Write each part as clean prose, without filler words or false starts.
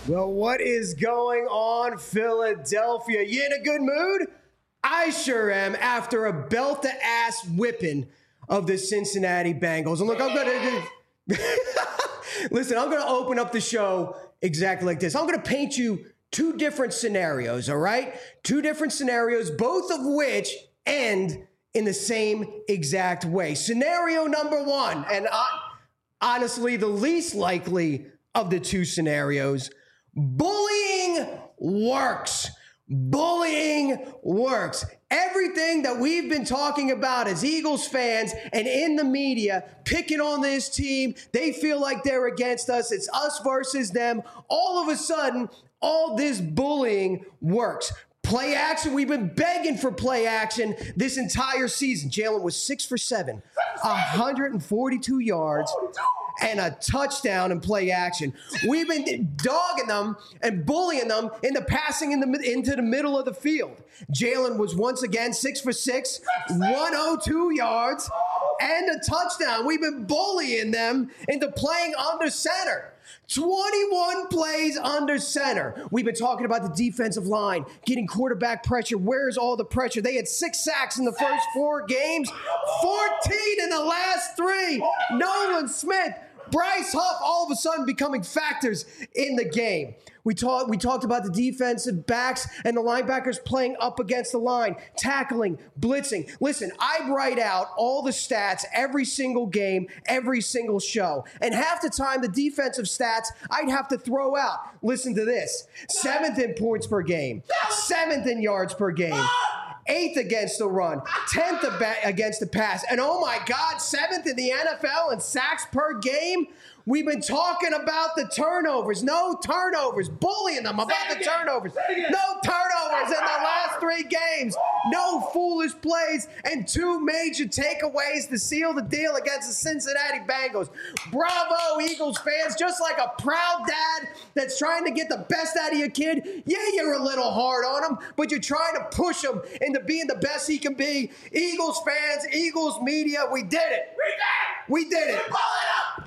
Well, what is going on, Philadelphia? You in a good mood? I sure am after a belt-to-ass whipping of the Cincinnati Bengals. And look, I'm going to open up the show exactly like this. I'm going to paint you two different scenarios, all right? Two different scenarios, both of which end in the same exact way. Scenario number one, and honestly, the least likely of the two scenarios, bullying works. Bullying works. Everything that we've been talking about as Eagles fans and in the media, picking on this team, they feel like they're against us. It's us versus them. All of a sudden, all this bullying works. Play action. We've been begging for play action this entire season. Jalen was 6 for 7, 142 yards, and a touchdown in play action. We've been dogging them and bullying them into passing into the middle of the field. Jalen was once again 6 for 6, 102 yards, and a touchdown. We've been bullying them into playing under center. 21 plays under center. We've been talking about the defensive line, getting quarterback pressure. Where's all the pressure? They had 6 sacks in the first 4 games, 14 in the last 3. Nolan Smith, Bryce Huff, all of a sudden becoming factors in the game. We talked about the defensive backs and the linebackers playing up against the line, tackling, blitzing. Listen, I write out all the stats every single game, every single show. And half the time, the defensive stats I'd have to throw out. Listen to this. 7th in points per game, 7th in yards per game, 8th against the run, 10th against the pass. And oh my God, 7th in the NFL in sacks per game. We've been talking about the turnovers. No turnovers. Bullying them about the turnovers. No turnovers in the last 3 games. No foolish plays and 2 major takeaways to seal the deal against the Cincinnati Bengals. Bravo, Eagles fans. Just like a proud dad that's trying to get the best out of your kid. Yeah, you're a little hard on him, but you're trying to push him into being the best he can be. Eagles fans, Eagles media, we did it. We did it. Pull it up.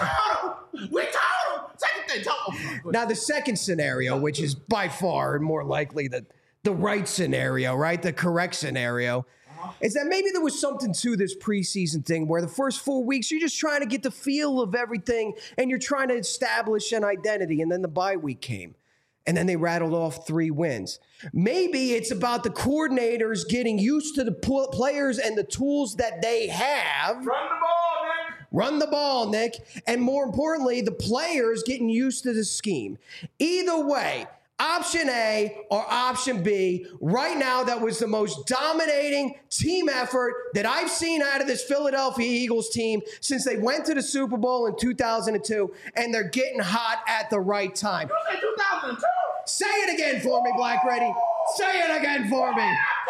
We told him. Second thing, told him. Now, the second scenario, which is by far more likely the right scenario, right? The correct scenario, is that maybe there was something to this preseason thing where the first 4 weeks, you're just trying to get the feel of everything and you're trying to establish an identity. And then the bye week came. And then they rattled off 3 wins. Maybe it's about the coordinators getting used to the players and the tools that they have. Run the ball, Nick. And more importantly, the players getting used to the scheme. Either way, option A or option B, right now that was the most dominating team effort that I've seen out of this Philadelphia Eagles team since they went to the Super Bowl in 2002, and they're getting hot at the right time. You said 2002? Say it again for me, Black Ready. Say it again for me.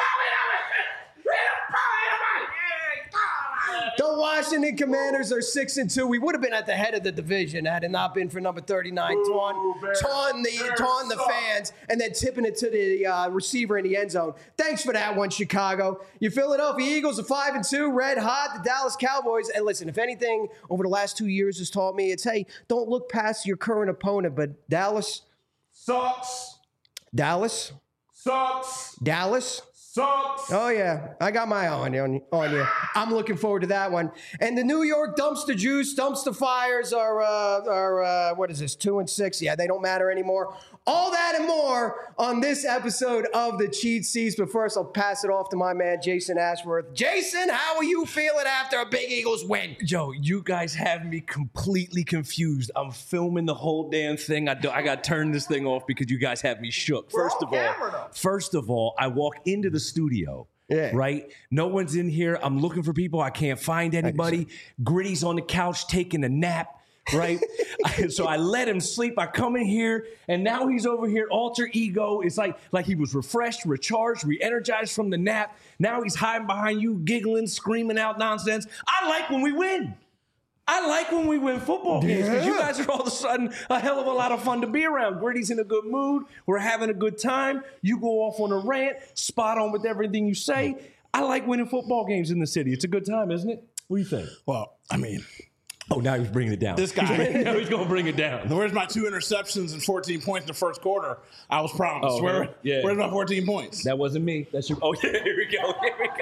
The Washington Commanders are 6-2. We would have been at the head of the division had it not been for number 39, taunting the fans and then tipping it to the receiver in the end zone. Thanks for that one, Chicago. Your Philadelphia Eagles are 5-2, red hot. The Dallas Cowboys. And listen, if anything over the last 2 years has taught me, it's, hey, don't look past your current opponent. But Dallas sucks. Dallas sucks. Dallas sucks. Oh, yeah. I got my eye on you. I'm looking forward to that one. And the New York Dumpster Juice, Dumpster Fires are what is this, 2-6? Yeah, they don't matter anymore. All that and more on this episode of the Cheat Seats. But first, I'll pass it off to my man, Jason Ashworth. Jason, how are you feeling after a big Eagles win? Joe, you guys have me completely confused. I'm filming the whole damn thing. I got to turn this thing off because you guys have me shook. First of all, I walk into the studio. Yeah. Right? No one's in here. I'm looking for people. I can't find anybody. Gritty's on the couch taking a nap. Right? So I let him sleep. I come in here, and now he's over here, alter ego. It's like he was refreshed, recharged, re-energized from the nap. Now he's hiding behind you, giggling, screaming out nonsense. I like when we win. I like when we win football games because you guys are all of a sudden a hell of a lot of fun to be around. Gritty's in a good mood. We're having a good time. You go off on a rant, spot on with everything you say. I like winning football games in the city. It's a good time, isn't it? What do you think? Well, I mean, Oh, now he's bringing it down. This guy. Now he's going to bring it down. Where's my 2 interceptions and 14 points in the first quarter? I was promised. Oh, Where's my 14 points? That wasn't me. That's your. Oh, yeah, here we go.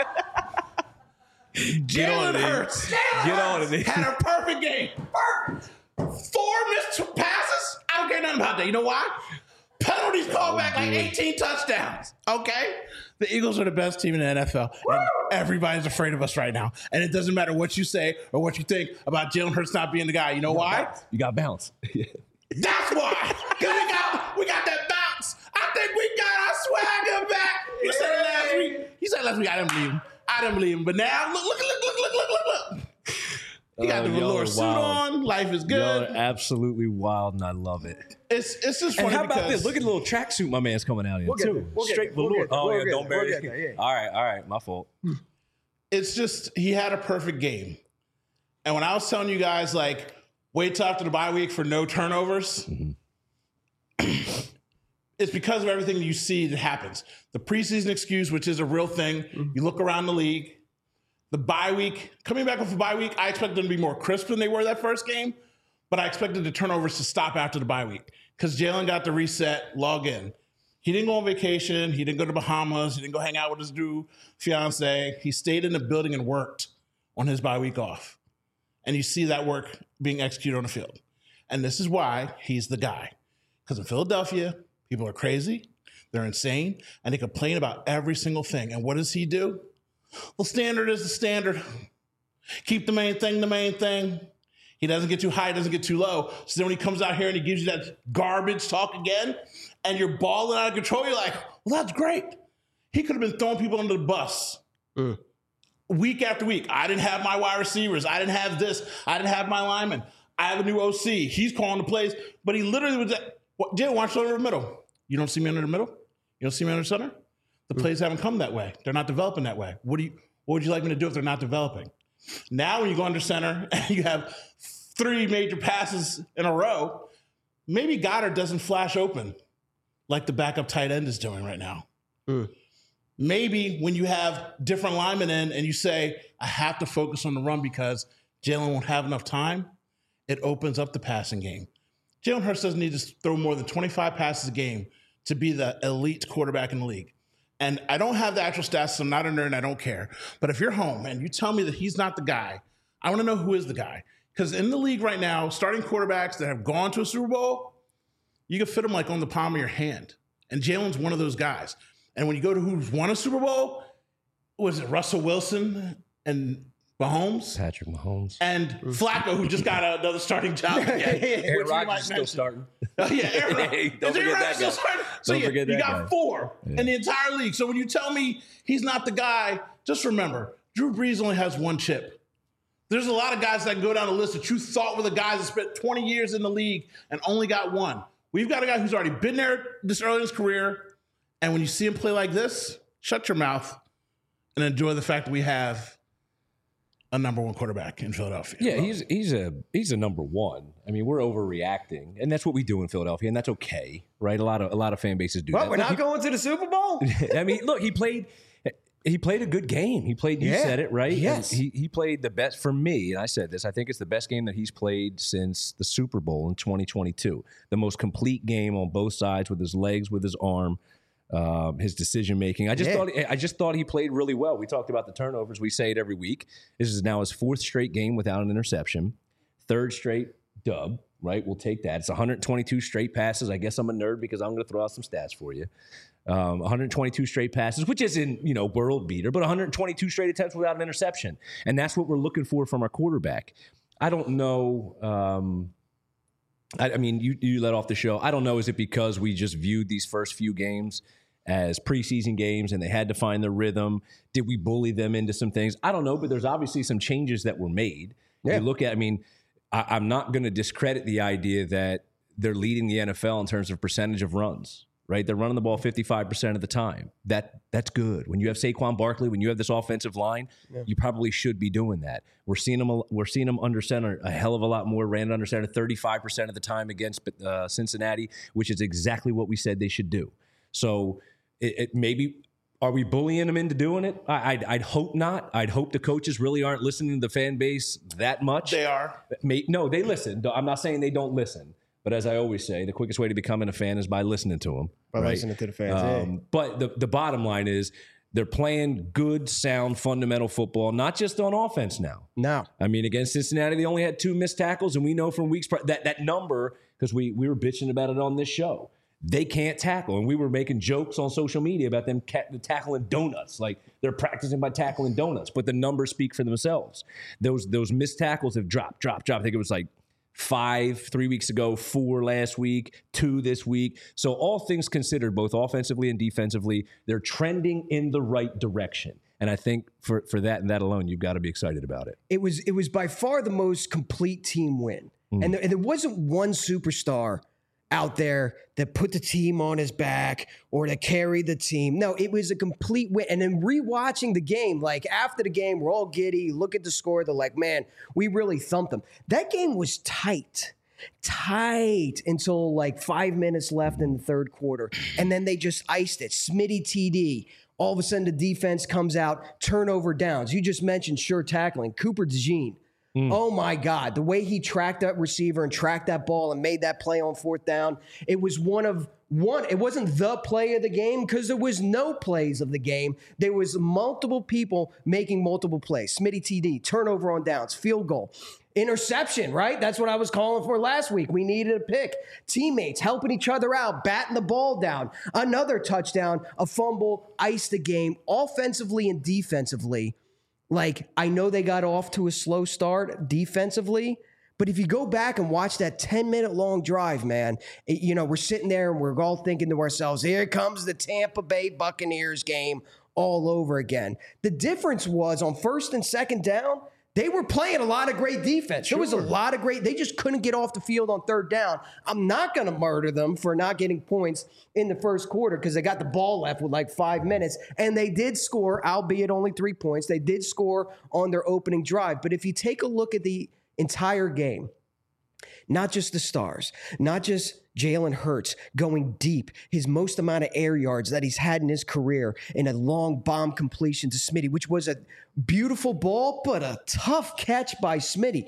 Jalen Hurts. Get on it. Had a perfect game. Perfect. 4 missed passes. I don't care nothing about that. You know why? Penalties called back like 18 touchdowns. Okay? The Eagles are the best team in the NFL. And everybody's afraid of us right now. And it doesn't matter what you say or what you think about Jalen Hurts not being the guy. You know why? You got bounce. That's why. Because we got that bounce. I think we got our swagger back. He said it last week. I didn't believe him. But now, look. He got the velour suit on. Life is good. Y'all are absolutely wild, and I love it. It's just funny. And how about because this? Look at the little tracksuit my man's coming out in, too. Straight velour. Don't bury it. All right. My fault. It's just, he had a perfect game. And when I was telling you guys, like, wait till after the bye week for no turnovers, it's because of everything you see that happens. The preseason excuse, which is a real thing. You look around the league. The bye week, coming back off the bye week, I expected them to be more crisp than they were that first game, but I expected the turnovers to stop after the bye week because Jalen got the reset, log in. He didn't go on vacation. He didn't go to Bahamas. He didn't go hang out with his new fiance. He stayed in the building and worked on his bye week off. And you see that work being executed on the field. And this is why he's the guy. Because in Philadelphia, people are crazy, they're insane, and they complain about every single thing. And what does he do? Well, standard is the standard. Keep the main thing the main thing. He doesn't get too high, doesn't get too low. So then when he comes out here and he gives you that garbage talk again, and you're balling out of control, you're like, well, that's great. He could have been throwing people under the bus week after week. I didn't have my wide receivers. I didn't have this. I didn't have my lineman. I have a new OC. He's calling the plays. But he literally was like, Jalen, watch over the middle. You don't see me under the middle? You don't see me under the center? The plays haven't come that way. They're not developing that way. What would you like me to do if they're not developing? Now when you go under center and you have 3 major passes in a row, maybe Goddard doesn't flash open like the backup tight end is doing right now. Maybe when you have different linemen in and you say, I have to focus on the run because Jalen won't have enough time, it opens up the passing game. Jalen Hurts doesn't need to throw more than 25 passes a game to be the elite quarterback in the league. And I don't have the actual stats, so I'm not a nerd and I don't care. But if you're home and you tell me that he's not the guy, I want to know who is the guy. Because in the league right now, starting quarterbacks that have gone to a Super Bowl, you can fit them like on the palm of your hand. And Jalen's one of those guys. And when you go to who's won a Super Bowl, was it Russell Wilson and Mahomes? Patrick Mahomes. And Flacco, who just got another starting job again. Aaron Rodgers is still starting. Yeah, Aaron Rodgers. Hey, don't forget that guy. So Don't forget you that got guy. 4 in the entire league. So when you tell me he's not the guy, just remember, Drew Brees only has 1 chip. There's a lot of guys that can go down the list that you thought were the guys that spent 20 years in the league and only got 1. We've got a guy who's already been there this early in his career. And when you see him play like this, shut your mouth and enjoy the fact that we have a number 1 quarterback in Philadelphia. Yeah, he's a number 1. I mean, we're overreacting, and that's what we do in Philadelphia, and that's okay, right? A lot of fan bases do that. We're not going to the Super Bowl? I mean, look, he played a good game. He played. You said it right. Yes, he played the best for me, and I said this. I think it's the best game that he's played since the Super Bowl in 2022. The most complete game on both sides, with his legs, with his arm. His decision making. I just thought he played really well. We talked about the turnovers. We say it every week. This is now his 4th straight game without an interception. 3rd straight dub, right? We'll take that. It's 122 straight passes. I guess I'm a nerd because I'm going to throw out some stats for you. 122 straight passes, which isn't, world beater, but 122 straight attempts without an interception. And that's what we're looking for from our quarterback. I don't know. I mean, you let off the show. I don't know. Is it because we just viewed these first few games as preseason games and they had to find their rhythm? Did we bully them into some things? I don't know, but there's obviously some changes that were made. Yeah. You look at, I'm not going to discredit the idea that they're leading the NFL in terms of percentage of runs, right? They're running the ball 55% of the time. That's good. When you have Saquon Barkley, when you have this offensive line, you probably should be doing that. We're seeing them under center a hell of a lot more. Ran under center 35% of the time against Cincinnati, which is exactly what we said they should do. So it maybe Are we bullying them into doing it? I'd hope not. I'd hope the coaches really aren't listening to the fan base that much. They are. No, they listen. I'm not saying they don't listen. But as I always say, the quickest way to becoming a fan is by listening to them. By listening to the fans. But the bottom line is they're playing good, sound, fundamental football, not just on offense now. No. I mean, against Cincinnati, they only had 2 missed tackles, and we know from weeks that number, because we were bitching about it on this show. They can't tackle. And we were making jokes on social media about them tackling donuts. Like they're practicing by tackling donuts. But the numbers speak for themselves. Those missed tackles have dropped. I think it was like 5 3 weeks ago, 4 last week, 2 this week. So all things considered, both offensively and defensively, they're trending in the right direction. And I think for that and that alone, you've got to be excited about it. It was by far the most complete team win. And there wasn't one superstar out there that put the team on his back or that carried the team. No, it was a complete win. And then rewatching the game, like after the game, we're all giddy, look at the score, they're like, man, we really thumped them. That game was tight until like 5 minutes left in the third quarter. And then they just iced it. Smitty TD. All of a sudden the defense comes out, turnover downs. You just mentioned sure tackling. Cooper DeJean. Oh my God, the way he tracked that receiver and tracked that ball and made that play on 4th down. It was it wasn't the play of the game because there was no plays of the game. There was multiple people making multiple plays. Smitty TD, turnover on downs, field goal, interception, right? That's what I was calling for last week. We needed a pick. Teammates helping each other out, batting the ball down, another touchdown, a fumble, iced the game offensively and defensively. Like, I know they got off to a slow start defensively, but if you go back and watch that 10-minute long drive, man, we're sitting there and we're all thinking to ourselves, here comes the Tampa Bay Buccaneers game all over again. The difference was on 1st and 2nd down, they were playing a lot of great defense. There was a lot of they just couldn't get off the field on 3rd down. I'm not going to murder them for not getting points in the first quarter because they got the ball left with like 5 minutes. And they did score, albeit only 3 points. They did score on their opening drive. But if you take a look at the entire game, not just the stars, not just Jalen Hurts going deep, his most amount of air yards that he's had in his career in a long bomb completion to Smitty, which was a beautiful ball, but a tough catch by Smitty.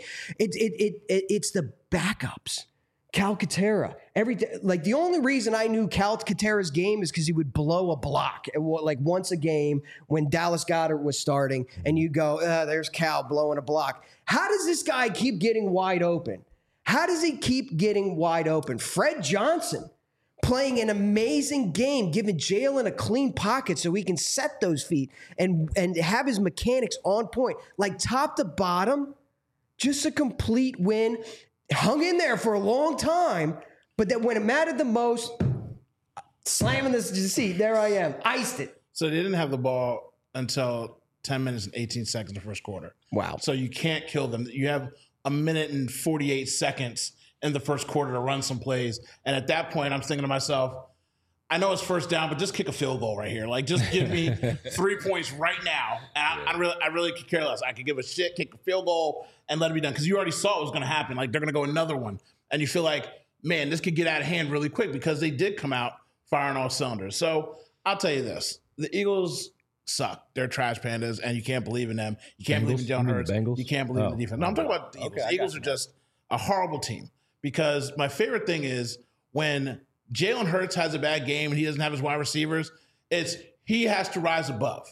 It's the backups. Calcaterra. The only reason I knew Calcaterra's game is because he would blow a block like once a game when Dallas Goedert was starting, and you go, there's Cal blowing a block. How does this guy keep getting wide open? How does he keep getting wide open? Fred Johnson playing an amazing game, giving Jalen a clean pocket so he can set those feet and have his mechanics on point. Like top to bottom, just a complete win. Hung in there for a long time, but then when it mattered the most, slamming this seat, there I am. Iced it. So they didn't have the ball until 10 minutes and 18 seconds in the first quarter. Wow. So you can't kill them. You have a minute and 48 seconds in the first quarter to run some plays. And at that point, I'm thinking to myself, I know it's 1st down, but just kick a field goal right here. Like, just give me 3 points right now. And I really could care less. I could give a shit, kick a field goal, and let it be done. Because you already saw what was going to happen. Like, they're going to go another one. And you feel like, man, this could get out of hand really quick because they did come out firing all cylinders. So I'll tell you this. The Eagles suck. They're trash pandas, and you can't believe in them. You can't believe in Jalen Hurts. You can't believe in the defense. No, I'm talking about the Eagles. Okay, the Eagles are just a horrible team. Because my favorite thing is when Jalen Hurts has a bad game and he doesn't have his wide receivers, he has to rise above.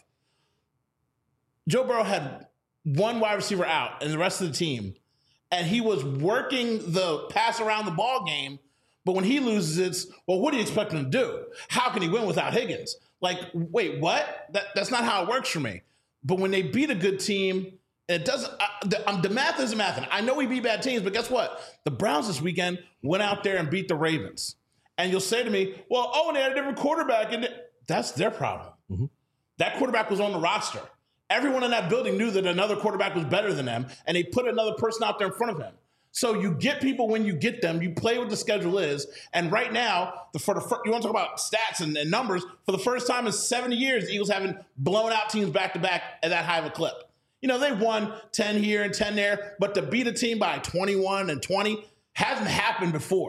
Joe Burrow had one wide receiver out and the rest of the team, and he was working the pass around the ball game, but when he loses, it's, well, what do you expect him to do? How can he win without Higgins? Like, wait, what? That's not how it works for me. But when they beat a good team, it doesn't. The math isn't mathing. I know we beat bad teams, but guess what? The Browns this weekend went out there and beat the Ravens. And you'll say to me, well, and they had a different quarterback. And that's their problem. Mm-hmm. That quarterback was on the roster. Everyone in that building knew that another quarterback was better than them, and they put another person out there in front of him. So you get people when you get them. You play what the schedule is. And right now, you want to talk about stats and numbers. For the first time in 70 years, the Eagles haven't blown out teams back-to-back at that high of a clip. They won 10 here and 10 there, but to beat a team by 21 and 20 hasn't happened before.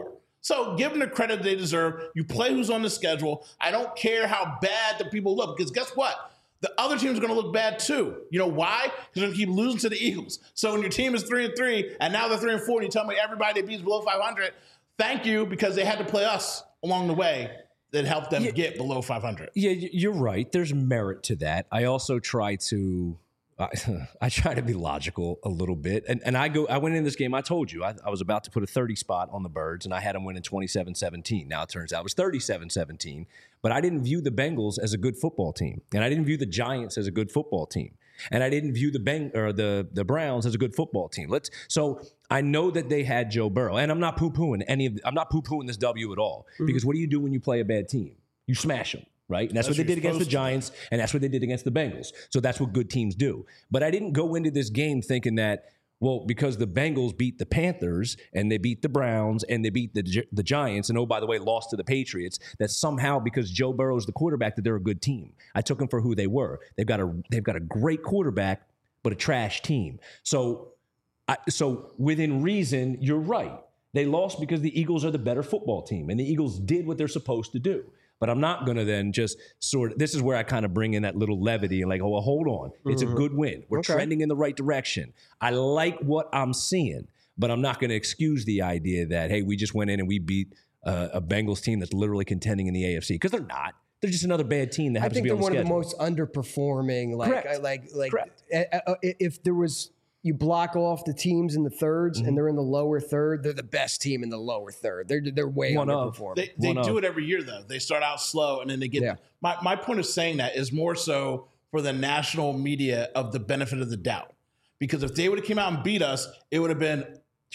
So give them the credit they deserve. You play who's on the schedule. I don't care how bad the people look, because guess what? The other teams are going to look bad too. You know why? Because they're going to keep losing to the Eagles. So when your team is 3-3 and now they're 3-4, and you tell me everybody they beats below 500, thank you, because they had to play us along the way that helped them get below 500. Yeah, you're right. There's merit to that. I also try to I try to be logical a little bit. And I went in this game, I told you, I was about to put a 30 spot on the Birds, and I had them winning 27-17. Now it turns out it was 37-17. But I didn't view the Bengals as a good football team. And I didn't view the Giants as a good football team. And I didn't view the Browns as a good football team. So I know that they had Joe Burrow. And I'm not poo-pooing this W at all. Because what do you do when you play a bad team? You smash them. Right? And that's what they did against the Giants, and that's what they did against the Bengals. So that's what good teams do. But I didn't go into this game thinking that, well, because the Bengals beat the Panthers, and they beat the Browns, and they beat the Giants, and oh, by the way, lost to the Patriots, that somehow because Joe Burrow is the quarterback that they're a good team. I took them for who they were. They've got a great quarterback, but a trash team. So within reason, you're right. They lost because the Eagles are the better football team, and the Eagles did what they're supposed to do. But I'm not going to then just this is where I kind of bring in that little levity and like, oh, well, hold on. It's a good win. We're trending in the right direction. I like what I'm seeing, but I'm not going to excuse the idea that, hey, we just went in and we beat a Bengals team that's literally contending in the AFC, because they're not. They're just another bad team that happens to be on the schedule. I think they're one of the most underperforming. Correct. If there was, you block off the teams in the thirds and they're in the lower third, they're the best team in the lower third. They're way underperforming. They do it every year, though. They start out slow and then they get my point of saying that is more so for the national media of the benefit of the doubt. Because if they would have came out and beat us, it would have been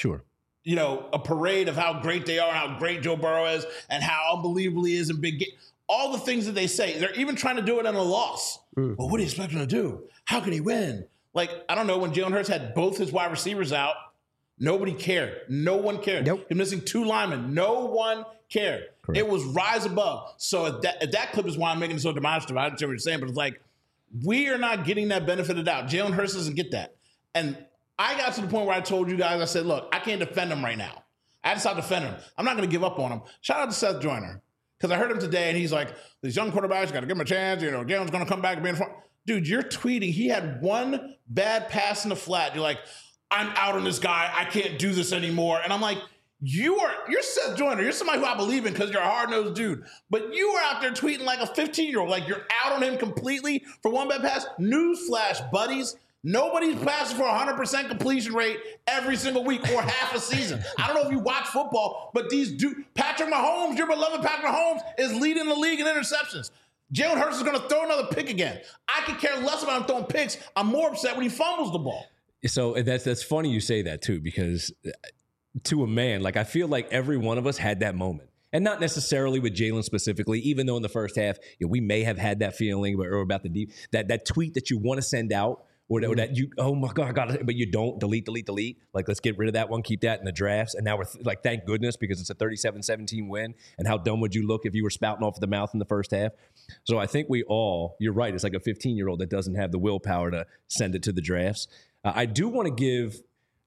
a parade of how great they are, how great Joe Burrow is, and how unbelievable he is in big game. All the things that they say. They're even trying to do it in a loss. Well, what do you expect him to do? How can he win? Like, I don't know, when Jalen Hurts had both his wide receivers out, nobody cared. No one cared. Nope. He's missing 2 linemen. No one cared. Correct. It was rise above. So if that clip is why I'm making it so demonstrative. I understand what you're saying, but it's like, we are not getting that benefit of the doubt. Jalen Hurts doesn't get that. And I got to the point where I told you guys, I said, look, I can't defend him right now. I had to stop defending him. I'm not going to give up on him. Shout out to Seth Joyner. Because I heard him today, and he's like, these young quarterbacks, got to give them a chance. Jalen's going to come back and be in front. Dude, you're tweeting. He had one bad pass in the flat. You're like, I'm out on this guy. I can't do this anymore. And I'm like, you're Seth Joyner. You're somebody who I believe in because you're a hard-nosed dude. But you are out there tweeting like a 15-year-old. Like, you're out on him completely for one bad pass. Newsflash, buddies. Nobody's passing for 100% completion rate every single week or half a season. I don't know if you watch football, but Patrick Mahomes, your beloved Patrick Mahomes, is leading the league in interceptions. Jalen Hurts is going to throw another pick again. I could care less about him throwing picks. I'm more upset when he fumbles the ball. So that's funny you say that too, because to a man, like, I feel like every one of us had that moment. And not necessarily with Jalen specifically, even though in the first half, we may have had that feeling or about that tweet that you want to send out. Or that you, oh my God, I got it, but you don't delete. Like, let's get rid of that one, keep that in the drafts. And now we're like, thank goodness, because it's a 37-17 win. And how dumb would you look if you were spouting off the mouth in the first half? So I think you're right. It's like a 15-year-old that doesn't have the willpower to send it to the drafts. I do want to give,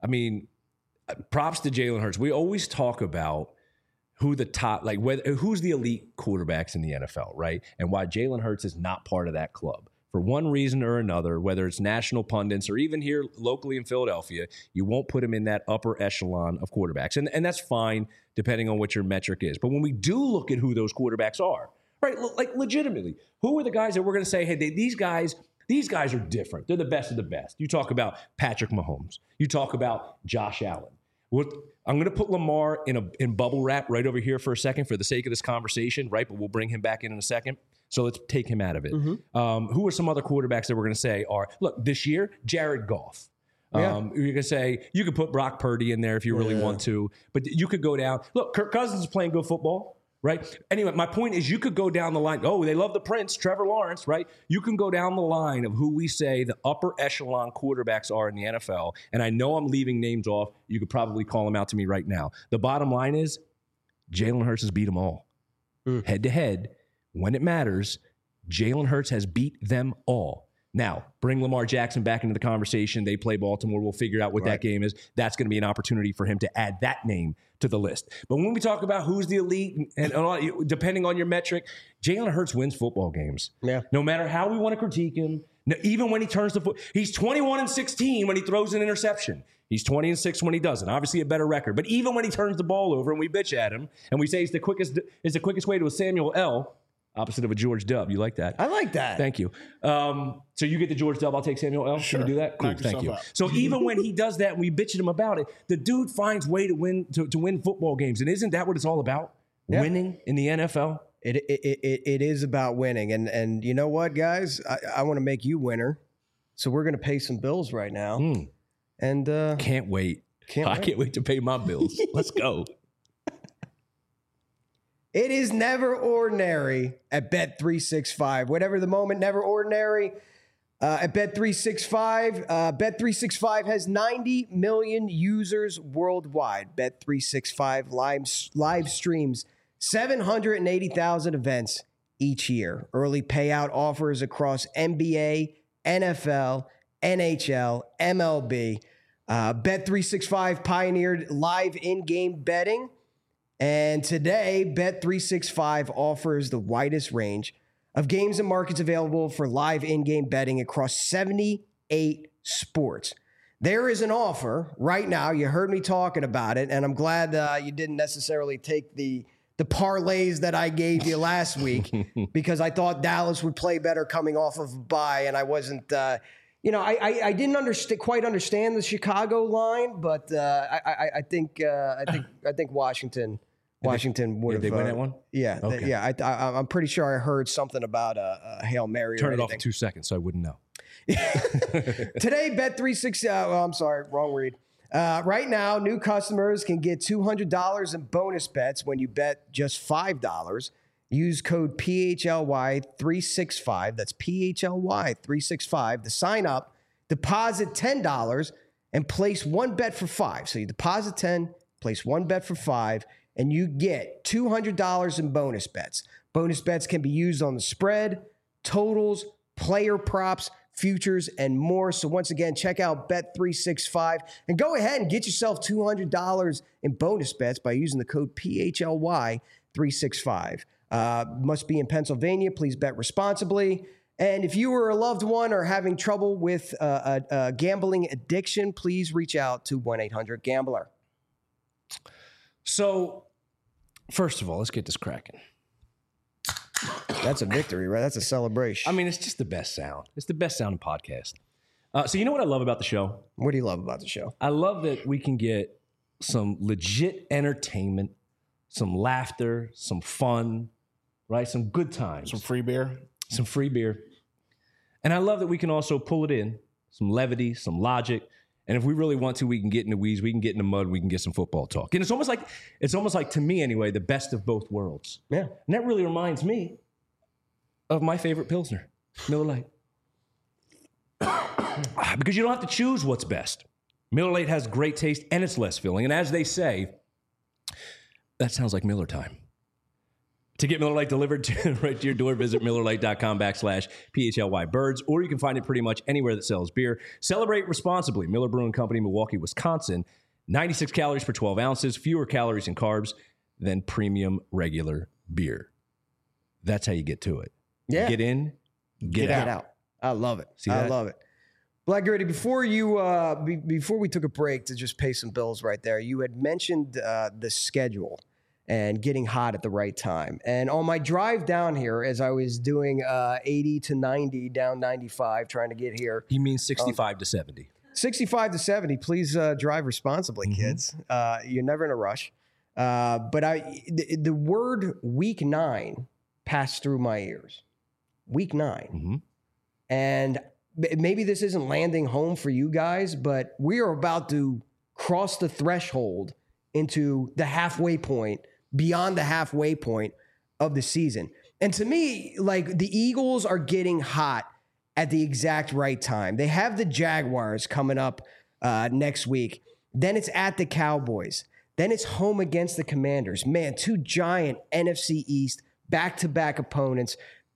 props to Jalen Hurts. We always talk about who's the elite quarterbacks in the NFL, right? And why Jalen Hurts is not part of that club. For one reason or another, whether it's national pundits or even here locally in Philadelphia, you won't put him in that upper echelon of quarterbacks. And that's fine, depending on what your metric is. But when we do look at who those quarterbacks are, right, like legitimately, who are the guys that we're going to say, hey, these guys are different. They're the best of the best. You talk about Patrick Mahomes. You talk about Josh Allen. I'm going to put Lamar in bubble wrap right over here for a second for the sake of this conversation, right? But we'll bring him back in a second. So let's take him out of it. Who are some other quarterbacks that we're going to say look, this year, Jared Goff. You're going to say, you could put Brock Purdy in there if you really want to, but you could go down. Look, Kirk Cousins is playing good football, right? Anyway, my point is you could go down the line. Oh, they love the Prince, Trevor Lawrence, right? You can go down the line of who we say the upper echelon quarterbacks are in the NFL. And I know I'm leaving names off. You could probably call them out to me right now. The bottom line is Jalen Hurts has beat them all. Head to head. When it matters, Jalen Hurts has beat them all. Now, bring Lamar Jackson back into the conversation. They play Baltimore. We'll figure out what that game is. That's going to be an opportunity for him to add that name to the list. But when we talk about who's the elite, and depending on your metric, Jalen Hurts wins football games. Yeah. No matter how we want to critique him, even when he turns the foot, he's 21-16 when he throws an interception. He's 20-6 when he doesn't. Obviously, a better record. But even when he turns the ball over and we bitch at him and we say it's the quickest way to a Samuel L. Opposite of a George Dub. You like that? I like that. Thank you. So you get the George Dub. I'll take Samuel L. Sure. Can you do that? Cool. Knock Thank you. yourself out. So even when he does that and we bitch at him about it, the dude finds way to win to win football games. And isn't that what it's all about? Yeah. Winning in the NFL? It is about winning. And you know what, guys? I want to make you winner. So we're going to pay some bills right now. And Can't wait. I can't wait to pay my bills. Let's go. It is never ordinary at Bet365. Whatever the moment, never ordinary at Bet365. Bet365 has 90 million users worldwide. Bet365 live streams 780,000 events each year. Early payout offers across NBA, NFL, NHL, MLB. Bet365 pioneered live in-game betting. And today, Bet365 offers the widest range of games and markets available for live in-game betting across 78 sports. There is an offer right now. You heard me talking about it, and I'm glad you didn't necessarily take the parlays that I gave you last week because I thought Dallas would play better coming off of a bye, and I wasn't I didn't quite understand the Chicago line, but I think Washington would have. Did they win that one? Yeah, Okay. I'm pretty sure I heard something about a Hail Mary. Turn or it off anything. in 2 seconds so I wouldn't know. Today, Bet365. I'm sorry, wrong read. Right now, new customers can get $200 in bonus bets when you bet just $5. Use code PHLY365. That's PHLY365 to sign up. Deposit $10 and place one bet for $5. So you deposit 10, place one bet for $5, and you get $200 in bonus bets. Bonus bets can be used on the spread, totals, player props, futures, and more. So once again, check out Bet365 and go ahead and get yourself $200 in bonus bets by using the code PHLY365. Must be in Pennsylvania. Please bet responsibly. And if you or a loved one are having trouble with a gambling addiction, please reach out to 1-800-GAMBLER. So, first of all, let's get this cracking. That's a victory, right? That's a celebration. I mean, it's just the best sound. It's the best sounding podcast. So you know what I love about the show? What do you love about the show? I love that we can get some legit entertainment, some laughter, some fun, right? Some good times. Some free beer. Some free beer. And I love that we can also pull it in, some levity, some logic. And if we really want to, we can get in the weeds, we can get in the mud, we can get some football talk. And it's almost like to me anyway, the best of both worlds. Yeah. And that really reminds me of my favorite Pilsner, Miller Lite. Because you don't have to choose what's best. Miller Lite has great taste and it's less filling. And as they say, that sounds like Miller time. To get Miller Lite delivered right to your door, visit MillerLite.com/PHLYBirds, or you can find it pretty much anywhere that sells beer. Celebrate responsibly. Miller Brewing Company, Milwaukee, Wisconsin. 96 calories per 12 ounces, fewer calories and carbs than premium regular beer. That's how you get to it. Yeah. Get in, get out. I love it. See I that? love it. Black Gritty, before we took a break to just pay some bills right there, you had mentioned the schedule and getting hot at the right time. And on my drive down here, as I was doing 80 to 90 down 95, trying to get here. He means 65 to 70. 65 to 70, please drive responsibly, kids. You're never in a rush. But the word week 9 passed through my ears. Week 9. And maybe this isn't landing home for you guys, but we are about to cross the threshold into the halfway point, beyond the halfway point of the season. And to me, like, the Eagles are getting hot at the exact right time. They have the Jaguars coming up next week. Then it's at the Cowboys. Then it's home against the Commanders. Man, two giant NFC East back-to-back opponents.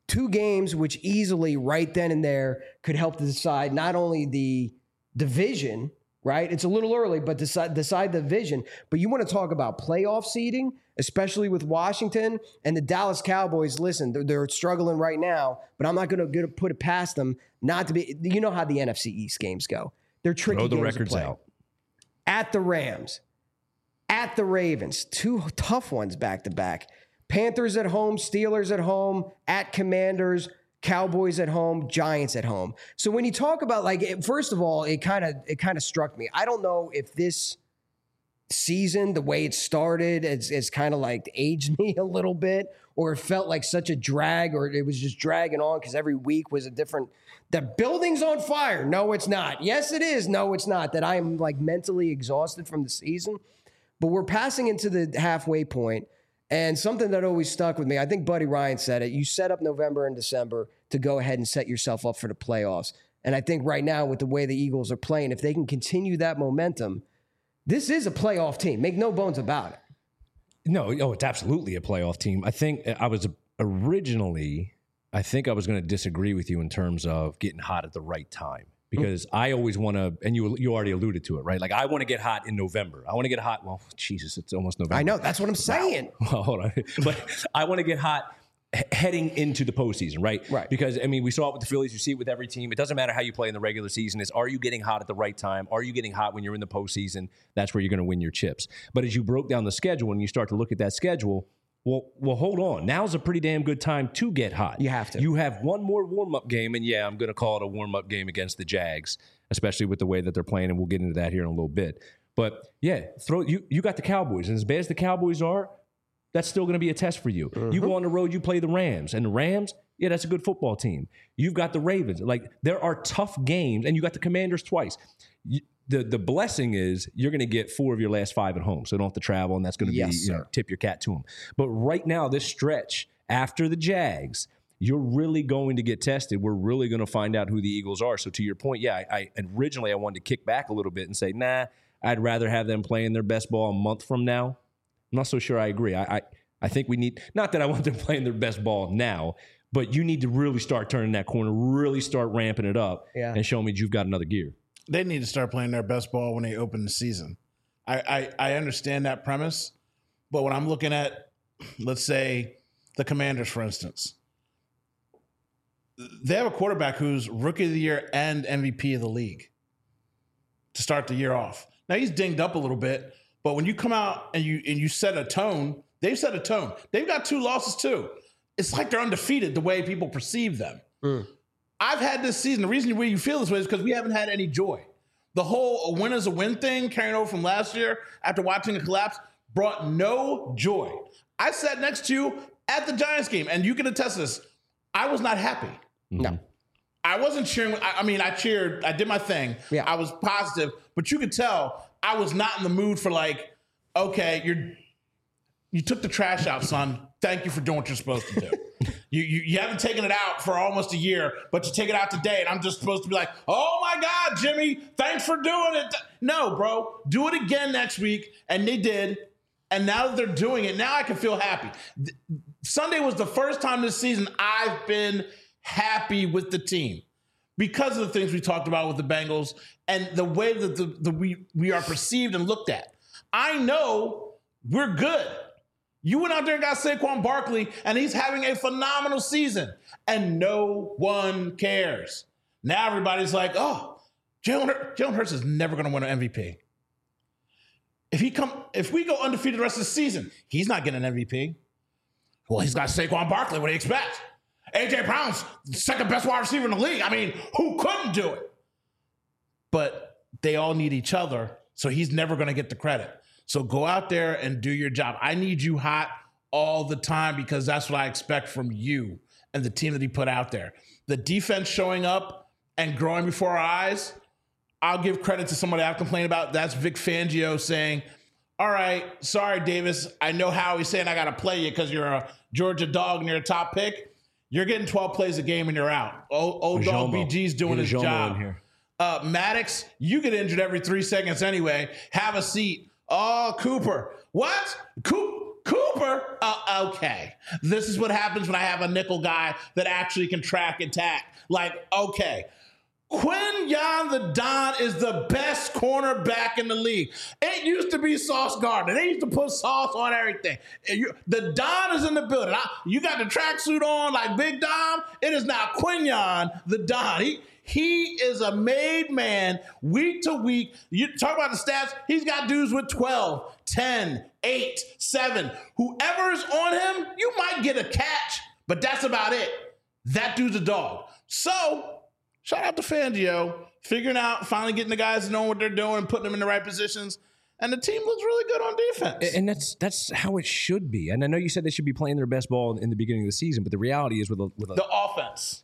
2 games which easily right then and there could help to decide not only the division, right? It's a little early, but decide the division. But you want to talk about playoff seeding, especially with Washington and the Dallas Cowboys. Listen, they're struggling right now, but I'm not going to put it past them not to be. You know how the NFC East games go. They're tricky. Throw the games records to play. out. At the Rams, at the Ravens, 2 tough ones back to back. Panthers at home, Steelers at home, at Commanders, Cowboys at home, Giants at home. So when you talk about first of all, it kind of struck me. I don't know if this season, the way it started, it's kind of like aged me a little bit, or it felt like such a drag, or it was just dragging on because every week was a different. The building's on fire. No, it's not. Yes, it is. No, it's not. That I am like mentally exhausted from the season, but we're passing into the halfway point. And something that always stuck with me, I think Buddy Ryan said it, you set up November and December to go ahead and set yourself up for the playoffs. And I think right now with the way the Eagles are playing, if they can continue that momentum, this is a playoff team. Make no bones about it. No, it's absolutely a playoff team. I think I was going to disagree with you in terms of getting hot at the right time. Because I always want to, and you already alluded to it, right? Like I want to get hot in November. I want to get hot. Well, Jesus, it's almost November. I know. That's what I'm saying. Wow. Well, hold on. But I want to get hot heading into the postseason, right? Right. Because, I mean, we saw it with the Phillies. You see it with every team. It doesn't matter how you play in the regular season. Are you getting hot at the right time? Are you getting hot when you're in the postseason? That's where you're going to win your chips. But as you broke down the schedule and you start to look at that schedule, well, hold on. Now's a pretty damn good time to get hot. You have to. You have one more warm-up game, and yeah, I'm going to call it a warm-up game against the Jags, especially with the way that they're playing, and we'll get into that here in a little bit. But yeah, you got the Cowboys, and as bad as the Cowboys are, that's still going to be a test for you. You go on the road, you play the Rams, and the Rams, yeah, that's a good football team. You've got the Ravens. Like, there are tough games, and you got the Commanders twice. The blessing is you're going to get 4 of your last 5 at home, so you don't have to travel, and that's going to be tip your cap to them. But right now, this stretch after the Jags, you're really going to get tested. We're really going to find out who the Eagles are. So to your point, yeah, I originally I wanted to kick back a little bit and say, nah, I'd rather have them playing their best ball a month from now. I'm not so sure I agree. I think we need, not that I want them playing their best ball now, but you need to really start turning that corner, really start ramping it up, and show me you've got another gear. They need to start playing their best ball when they open the season. I understand that premise, but when I'm looking at, let's say, the Commanders, for instance, they have a quarterback who's Rookie of the Year and MVP of the league to start the year off. Now, he's dinged up a little bit, but when you come out and you set a tone, they've set a tone. They've got 2 losses, too. It's like they're undefeated the way people perceive them. I've had this season. The reason you feel this way is because we haven't had any joy. The whole a win is a win thing carrying over from last year after watching it collapse brought no joy. I sat next to you at the Giants game, and you can attest to this. I was not happy. No. I wasn't cheering. I cheered. I did my thing. Yeah. I was positive, but you could tell I was not in the mood for like, okay, you took the trash out, son. Thank you for doing what you're supposed to do. You haven't taken it out for almost a year, but you take it out today, and I'm just supposed to be like, oh my God, Jimmy, thanks for doing it. No, bro, do it again next week. And they did. And now that they're doing it, now I can feel happy. Sunday was the first time this season I've been happy with the team because of the things we talked about with the Bengals and the way that we are perceived and looked at. I know we're good. You went out there and got Saquon Barkley, and he's having a phenomenal season, and no one cares. Now everybody's like, oh, Jalen Hurts is never going to win an MVP. If we go undefeated the rest of the season, he's not getting an MVP. Well, he's got Saquon Barkley. What do you expect? A.J. Brown's the second best wide receiver in the league. I mean, who couldn't do it? But they all need each other, so he's never going to get the credit. So go out there and do your job. I need you hot all the time because that's what I expect from you and the team that he put out there. The defense showing up and growing before our eyes, I'll give credit to somebody I've complained about. That's Vic Fangio saying, all right, sorry, Davis. I know how he's saying I got to play you because you're a Georgia dog and you're a top pick. You're getting 12 plays a game and you're out. Old dog BG's doing his job. Maddox, you get injured every 3 seconds anyway. Have a seat. Oh, Cooper. What? Cooper, okay. This is what happens when I have a nickel guy that actually can track and tack. Like, okay. Quinyon the Don is the best cornerback in the league. It used to be Sauce Gardner. They used to put sauce on everything. The Don is in the building. You got the tracksuit on like Big Dom. It is now Quinyon the Don. He is a made man week to week. You talk about the stats. He's got dudes with 12, 10, 8, 7. Whoever is on him, you might get a catch, but that's about it. That dude's a dog. So, shout out to Fangio, figuring out, finally getting the guys to know what they're doing, putting them in the right positions. And the team looks really good on defense. And that's how it should be. And I know you said they should be playing their best ball in the beginning of the season, but the reality is with the offense.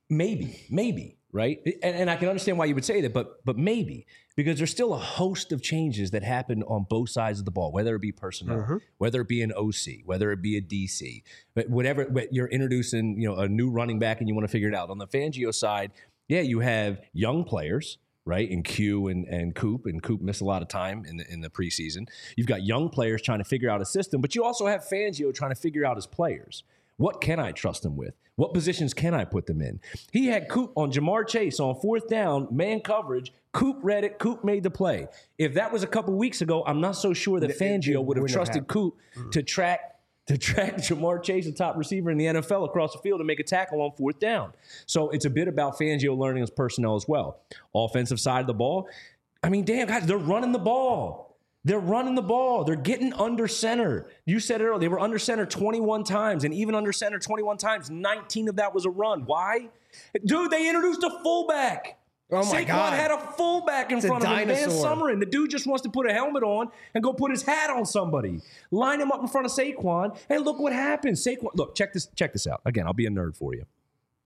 Maybe, right? And I can understand why you would say that, but maybe. Because there's still a host of changes that happen on both sides of the ball, whether it be personnel, whether it be an OC, whether it be a DC, but whatever you're introducing, a new running back and you want to figure it out. On the Fangio side, yeah, you have young players, right? And Q and Coop missed a lot of time in the preseason. You've got young players trying to figure out a system, but you also have Fangio trying to figure out his players. What can I trust him with? What positions can I put them in? He had Coop on Jamar Chase on 4th down, man coverage. Coop read it. Coop made the play. If that was a couple weeks ago, I'm not so sure that Fangio would have trusted Coop to track Jamar Chase, the top receiver in the NFL, across the field and make a tackle on 4th down. So it's a bit about Fangio learning his personnel as well. Offensive side of the ball, I mean, damn, guys, they're running the ball. They're running the ball. They're getting under center. You said it earlier. They were under center 21 times, and even under center 21 times, 19 of that was a run. Why? Dude, they introduced a fullback. Oh, my God. Saquon had a fullback in front of him, Van Summerlin. The dude just wants to put a helmet on and go put his hat on somebody. Line him up in front of Saquon, and look what happens. Saquon, look, check this out. Again, I'll be a nerd for you.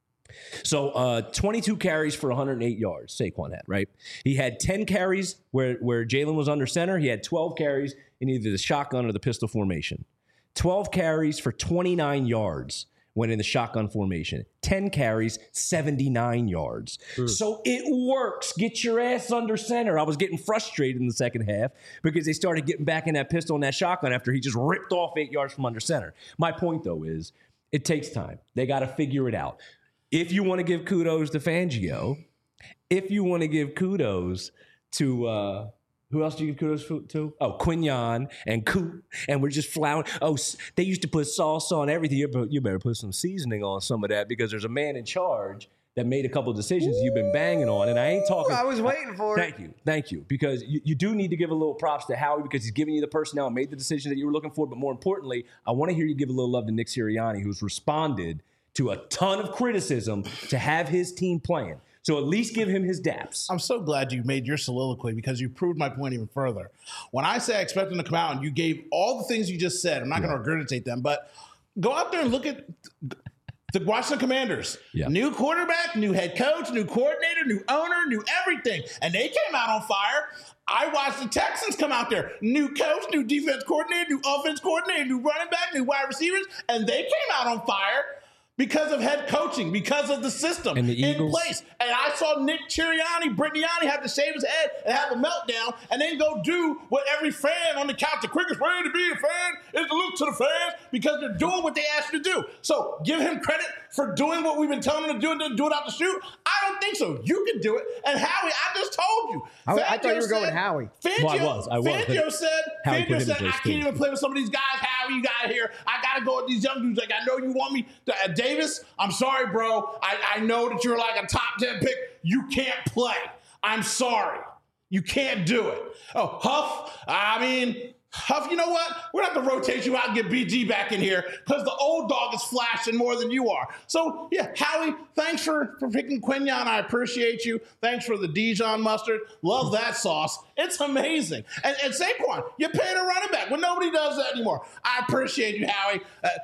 So 22 carries for 108 yards, Saquon had, right? He had 10 carries where Jalen was under center. He had 12 carries in either the shotgun or the pistol formation. 12 carries for 29 yards when in the shotgun formation. 10 carries, 79 yards. So it works. Get your ass under center. I was getting frustrated in the second half because they started getting back in that pistol and that shotgun after he just ripped off 8 yards from under center. My point, though, is it takes time. They got to figure it out. If you want to give kudos to Fangio, if you want to give kudos to who else do you give kudos to? Oh, Quinyon and Coop, and we're just flouting. Oh, they used to put sauce on everything. You better put some seasoning on some of that because there's a man in charge that made a couple of decisions you've been banging on, and I ain't talking. I was waiting for it. Thank you, because you do need to give a little props to Howie because he's giving you the personnel and made the decision that you were looking for. But more importantly, I want to hear you give a little love to Nick Sirianni, who's responded to a ton of criticism to have his team playing. So at least give him his daps. I'm so glad you made your soliloquy because you proved my point even further. When I say I expect him to come out and you gave all the things you just said, I'm not going to regurgitate them, but go out there and look at the Washington Commanders. Yeah. New quarterback, new head coach, new coordinator, new owner, new everything. And they came out on fire. I watched the Texans come out there. New coach, new defense coordinator, new offense coordinator, new running back, new wide receivers, and they came out on fire. Because of head coaching, because of the system and the in place. And I saw Nick Brittany have to shave his head and have a meltdown and then go do what every fan on the couch, the quickest way to be a fan is to look to the fans because they're doing what they asked you to do. So give him credit for doing what we've been telling him to do and do it out the chute. I don't think so. You can do it. And Howie, I just told you. I thought you were going Howie. Fangio said, I can't even play with some of these guys. Howie, you got here. I got to go with these young dudes. Like, I know you want me to Davis, I'm sorry, bro. I know that you're like a top 10 pick. You can't play. I'm sorry. You can't do it. Oh, Huff, you know what? We're going to have to rotate you out and get BG back in here because the old dog is flashing more than you are. So, yeah, Howie, thanks for picking Quinyon. I appreciate you. Thanks for the Dijon mustard. Love that sauce. It's amazing. And Saquon, you paid a running back when nobody does that anymore. I appreciate you, Howie.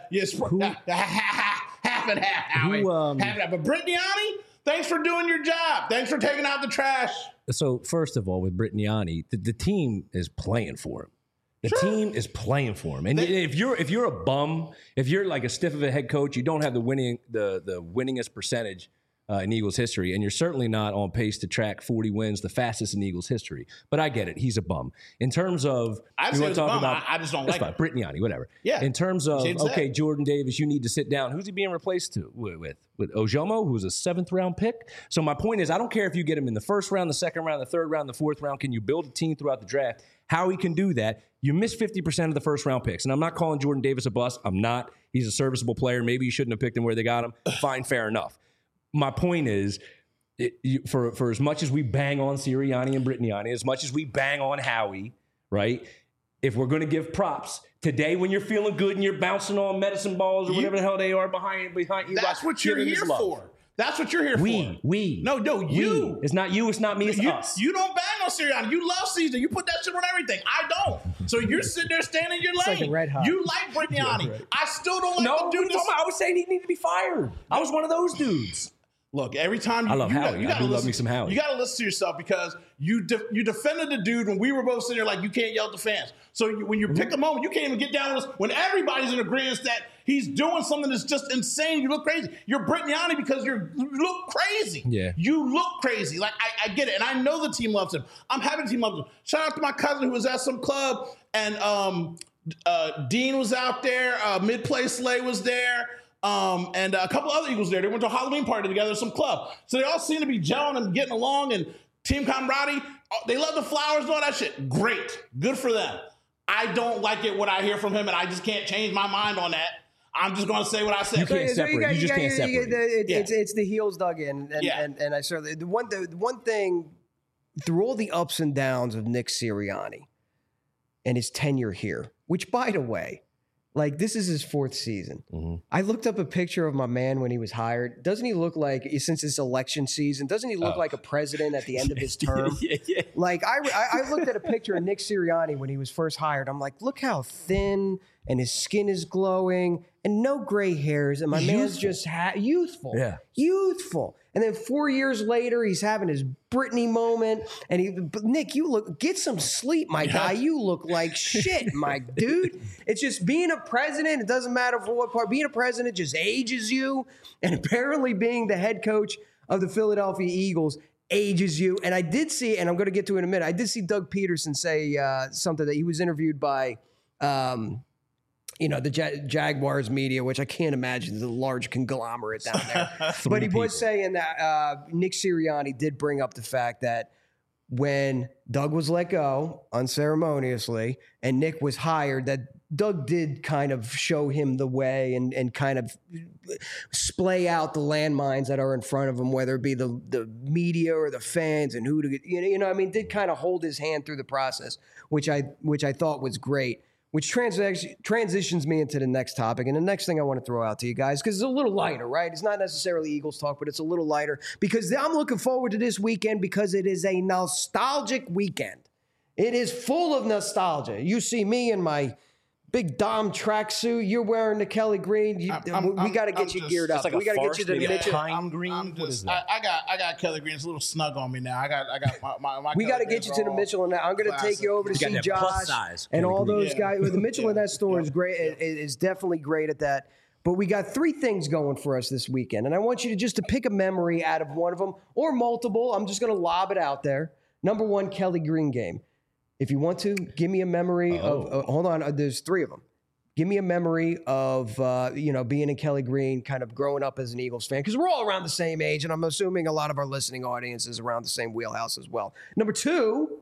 Half and half, Howie. Half and half. But Brittany, thanks for doing your job. Thanks for taking out the trash. So, first of all, with Brittany, the team is playing for him. The team is playing for him. And if you're a bum, if you're like a stiff of a head coach, you don't have the winningest percentage in Eagles history, and you're certainly not on pace to track 40 wins, the fastest in Eagles history. But I get it. He's a bum. In terms of, I just don't like it. Brittany, whatever. Yeah. In terms of, okay, Jordan Davis, you need to sit down. Who's he being replaced with Ojomo, who's a 7th-round pick? So my point is, I don't care if you get him in the 1st round, the 2nd round, the 3rd round, the 4th round. Can you build a team throughout the draft? How he can do that? You miss 50% of the 1st-round picks. And I'm not calling Jordan Davis a bust. I'm not. He's a serviceable player. Maybe you shouldn't have picked him where they got him. Fine, fair enough. My point is, for as much as we bang on Sirianni and Brittany, as much as we bang on Howie, right? If we're going to give props today, when you're feeling good and you're bouncing on medicine balls or whatever the hell they are behind you, that's what you're here for. That's what you're here for. No, you. It's not you. It's not me. It's us. You don't bang on Sirianni. You love Caesar. You put that shit on everything. I don't. So you're sitting there standing in your lane. like a red hot. You like Brittany. I still don't like the dude. I was saying he needed to be fired. I was one of those dudes. Look, every time I love Howie. I do love me some Howie. You got to listen to yourself because you defended the dude when we were both sitting there like you can't yell at the fans. So when you pick a moment, you can't even get down with us when everybody's in agreement that he's doing something that's just insane. You look crazy. You're Brittany because you look crazy. Yeah. You look crazy. Like, I get it. And I know the team loves him. I'm happy the team loves him. Shout out to my cousin who was at some club and Dean was out there. Mid-Play Slay was there. And a couple other Eagles there. They went to a Halloween party together at some club. So they all seem to be gelling and getting along and team camaraderie. They love the flowers and all that shit. Great. Good for them. I don't like it what I hear from him, and I just can't change my mind on that. I'm just going to say what I said. You can't separate. You just can't separate. It's the heels dug in. And I certainly, the one thing, through all the ups and downs of Nick Sirianni and his tenure here, which, by the way, like, this is his 4th season. Mm-hmm. I looked up a picture of my man when he was hired. Doesn't he look like, since it's election season, doesn't he look like a president at the end of his term? Yeah. Like, I looked at a picture of Nick Sirianni when he was first hired. I'm like, look how thin and his skin is glowing and no gray hairs. And my man's just youthful. Yeah. Youthful. And then 4 years later, he's having his Brittany moment. And Nick, get some sleep, my guy. You look like shit, my dude. It's just being a president. It doesn't matter for what part. Being a president just ages you. And apparently being the head coach of the Philadelphia Eagles ages you. And I did see, and I'm going to get to it in a minute, I did see Doug Peterson say something that he was interviewed by the Jaguars media, which I can't imagine is a large conglomerate down there. But he was saying that Nick Sirianni did bring up the fact that when Doug was let go unceremoniously and Nick was hired, that Doug did kind of show him the way and kind of splay out the landmines that are in front of him, whether it be the media or the fans and who to, did kind of hold his hand through the process, which I thought was great. Which transitions me into the next topic. And the next thing I want to throw out to you guys, because it's a little lighter, right? It's not necessarily Eagles talk, but it's a little lighter. Because I'm looking forward to this weekend because it is a nostalgic weekend. It is full of nostalgia. You see me in my big Dom tracksuit. You're wearing the Kelly Green. We got to get you geared up. Like we got to get you to the Mitchell. Pine green. I got Kelly Green. It's a little snug on me now. I got my we got to get you to the Mitchell and that. I'm going to take you over to see Josh and all those guys. The Mitchell and that store is great. It is definitely great at that. But we got 3 things going for us this weekend, and I want you to pick a memory out of one of them or multiple. I'm just going to lob it out there. Number 1, Kelly Green game. If you want to, give me a memory of, hold on, there's 3 of them. Give me a memory of, being in Kelly Green, kind of growing up as an Eagles fan, because we're all around the same age, and I'm assuming a lot of our listening audience is around the same wheelhouse as well. Number 2,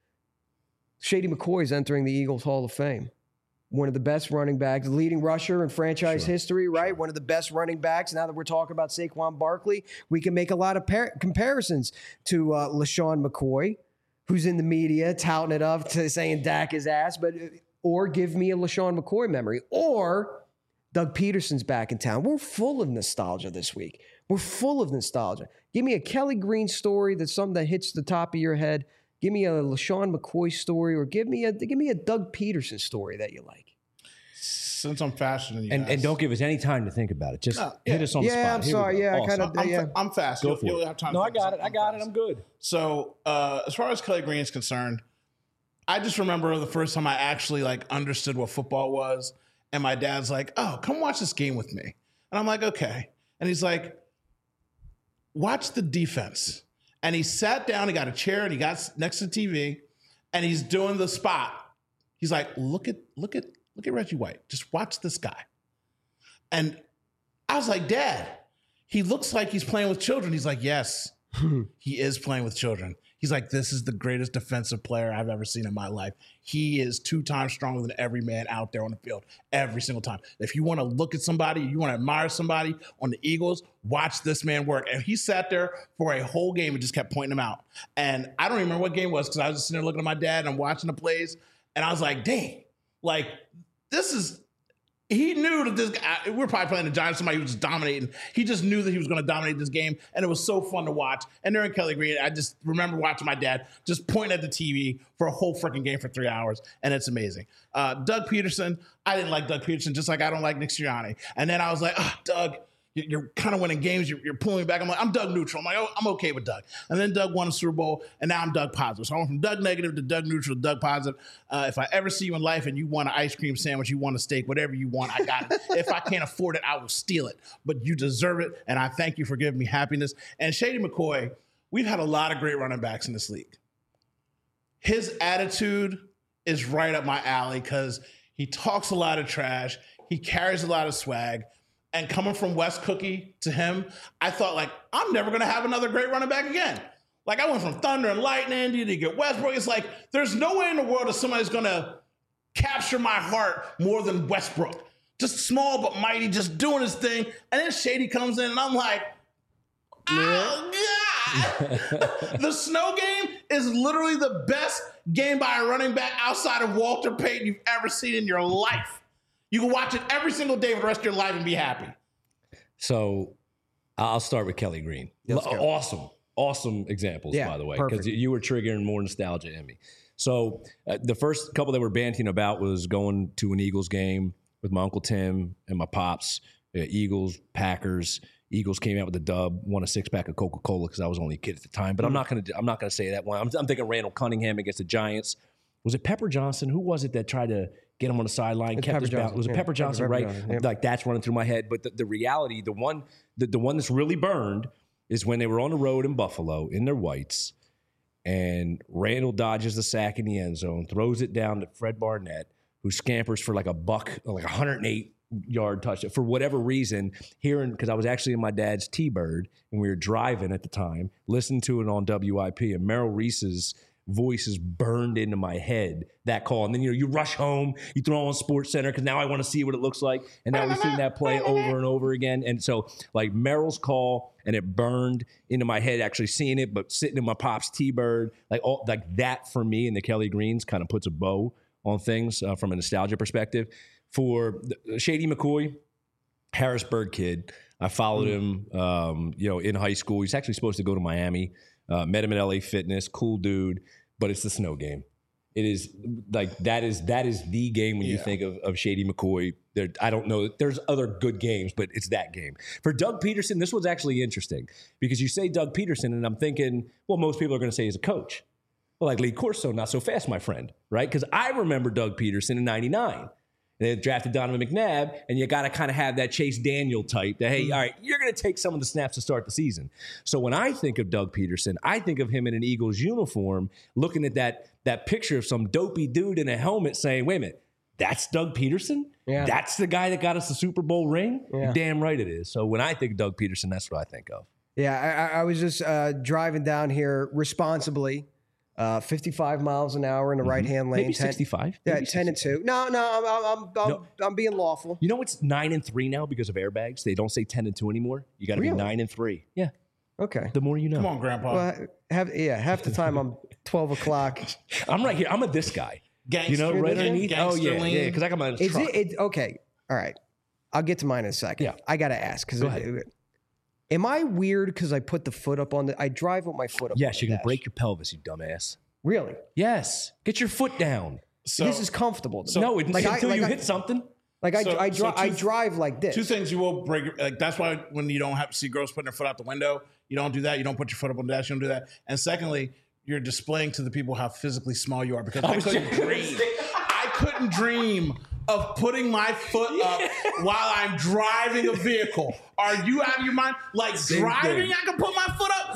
Shady McCoy is entering the Eagles Hall of Fame. One of the best running backs, leading rusher in franchise history, right? One of the best running backs. Now that we're talking about Saquon Barkley, we can make a lot of comparisons to LaShawn McCoy, who's in the media touting it up, saying Dak is ass, or give me a LaShawn McCoy memory, or Doug Peterson's back in town. We're full of nostalgia this week. We're full of nostalgia. Give me a Kelly Green story that's something that hits the top of your head. Give me a LaShawn McCoy story, or give me a Doug Peterson story that you like. Since I'm faster than you and don't give us any time to think about it. Just hit us on the spot. Yeah, I'm sorry. Yeah, I'm fast. You'll have time. No, I got it. I'm good. So as far as Kelly Green is concerned, I just remember the first time I actually understood what football was, and my dad's like, "Oh, come watch this game with me," and I'm like, "Okay," and he's like, watch the defense. And he sat down, he got a chair, and he got next to the TV, and he's doing the spot. He's like, look at Reggie White. Just watch this guy. And I was like, Dad, he looks like he's playing with children. He's like, yes, he is playing with children. He's like, this is the greatest defensive player I've ever seen in my life. He is 2 times stronger than every man out there on the field every single time. If you want to look at somebody, you want to admire somebody on the Eagles, watch this man work. And he sat there for a whole game and just kept pointing them out. And I don't even remember what game it was because I was just sitting there looking at my dad and I'm watching the plays. And I was like, dang, like this is, he knew that this guy, we were probably playing the Giants, somebody who was just dominating. He just knew that he was going to dominate this game, and it was so fun to watch. And during Kelly Green, I just remember watching my dad just point at the TV for a whole freaking game for 3 hours, and it's amazing. Doug Peterson, I didn't like Doug Peterson, just like I don't like Nick Sirianni. And then I was like, Doug, you're kind of winning games. You're pulling me back. I'm like, I'm Doug neutral. I'm like, oh, I'm okay with Doug. And then Doug won a Super Bowl, and now I'm Doug positive. So I went from Doug negative to Doug neutral to Doug positive. If I ever see you in life and you want an ice cream sandwich, you want a steak, whatever you want, I got it. If I can't afford it, I will steal it. But you deserve it, and I thank you for giving me happiness. And Shady McCoy, we've had a lot of great running backs in this league. His attitude is right up my alley because he talks a lot of trash. He carries a lot of swag. And coming from Wes Cookie to him, I thought, like, I'm never going to have another great running back again. Like, I went from Thunder and Lightning to get Westbrook. It's like, there's no way in the world that somebody's going to capture my heart more than Westbrook. Just small but mighty, just doing his thing. And then Shady comes in, and I'm like, oh, God. The snow game is literally the best game by a running back outside of Walter Payton you've ever seen in your life. You can watch it every single day for the rest of your life and be happy. So I'll start with Kelly Green. Awesome examples, by the way, because you were triggering more nostalgia in me. So the first couple that we're banting about was going to an Eagles game with my Uncle Tim and my pops. Eagles, Packers. Eagles came out with the dub, won a 6-pack of Coca-Cola because I was only a kid at the time. But I'm not gonna say that one. I'm thinking Randall Cunningham against the Giants. Was it Pepper Johnson? Who was it that tried to get him on the sideline? Was it Pepper Johnson, right? Yep. Like that's running through my head. But the reality, the one that's really burned is when they were on the road in Buffalo in their whites, and Randall dodges the sack in the end zone, throws it down to Fred Barnett, who scampers for like a 108-yard touchdown. For whatever reason, because I was actually in my dad's T-Bird, and we were driving at the time, listening to it on WIP, and Merrill Reese's voice is burned into my head, that call. And then, you rush home, you throw on Sports Center because now I want to see what it looks like. And now we've seen that play over and over again. And so, like, Merrill's call, and it burned into my head actually seeing it, but sitting in my pop's T-Bird, like that for me, and the Kelly Greens kind of puts a bow on things from a nostalgia perspective. For Shady McCoy, Harrisburg kid, I followed him, in high school. He's actually supposed to go to Miami. Met him at LA Fitness, cool dude, but it's the snow game. It is like that is the game when you think of Shady McCoy. I don't know. There's other good games, but it's that game. For Doug Peterson, this was actually interesting because you say Doug Peterson, and I'm thinking, well, most people are going to say he's a coach. Well, like Lee Corso, not so fast, my friend, right? Because I remember Doug Peterson in '99. They drafted Donovan McNabb, and you got to kind of have that Chase Daniel type that, hey, all right, you're going to take some of the snaps to start the season. So when I think of Doug Peterson, I think of him in an Eagles uniform, looking at that picture of some dopey dude in a helmet saying, wait a minute, that's Doug Peterson? Yeah. That's the guy that got us the Super Bowl ring? Yeah. Damn right it is. So when I think of Doug Peterson, that's what I think of. Yeah, I was just driving down here responsibly. 55 miles an hour in the right-hand lane. Maybe 65. Yeah, 10-2. No, I'm being lawful. You know it's 9-3 now because of airbags. They don't say 10-2 anymore. You got to be 9-3. Yeah. Okay. The more you know. Come on, Grandpa. Well, half the time I'm 12 o'clock. I'm right here. I'm this guy. Gangster, right underneath. Oh yeah, lean. because I got my truck. Okay. All right. I'll get to mine in a second. Yeah. I got to ask because. Am I weird because I put the foot up on I drive with my foot up? Yes, you can break your pelvis, you dumbass. Really? Yes. Get your foot down. So, this is comfortable. No, until you hit something. Like I drive like this. Two things you will break. Like that's why when you don't have to see girls putting their foot out the window, you don't do that. You don't put your foot up on the dash. You don't do that. And secondly, you're displaying to the people how physically small you are because I couldn't dream of putting my foot up while I'm driving a vehicle. Are you out of your mind? Like driving, I can put my foot up.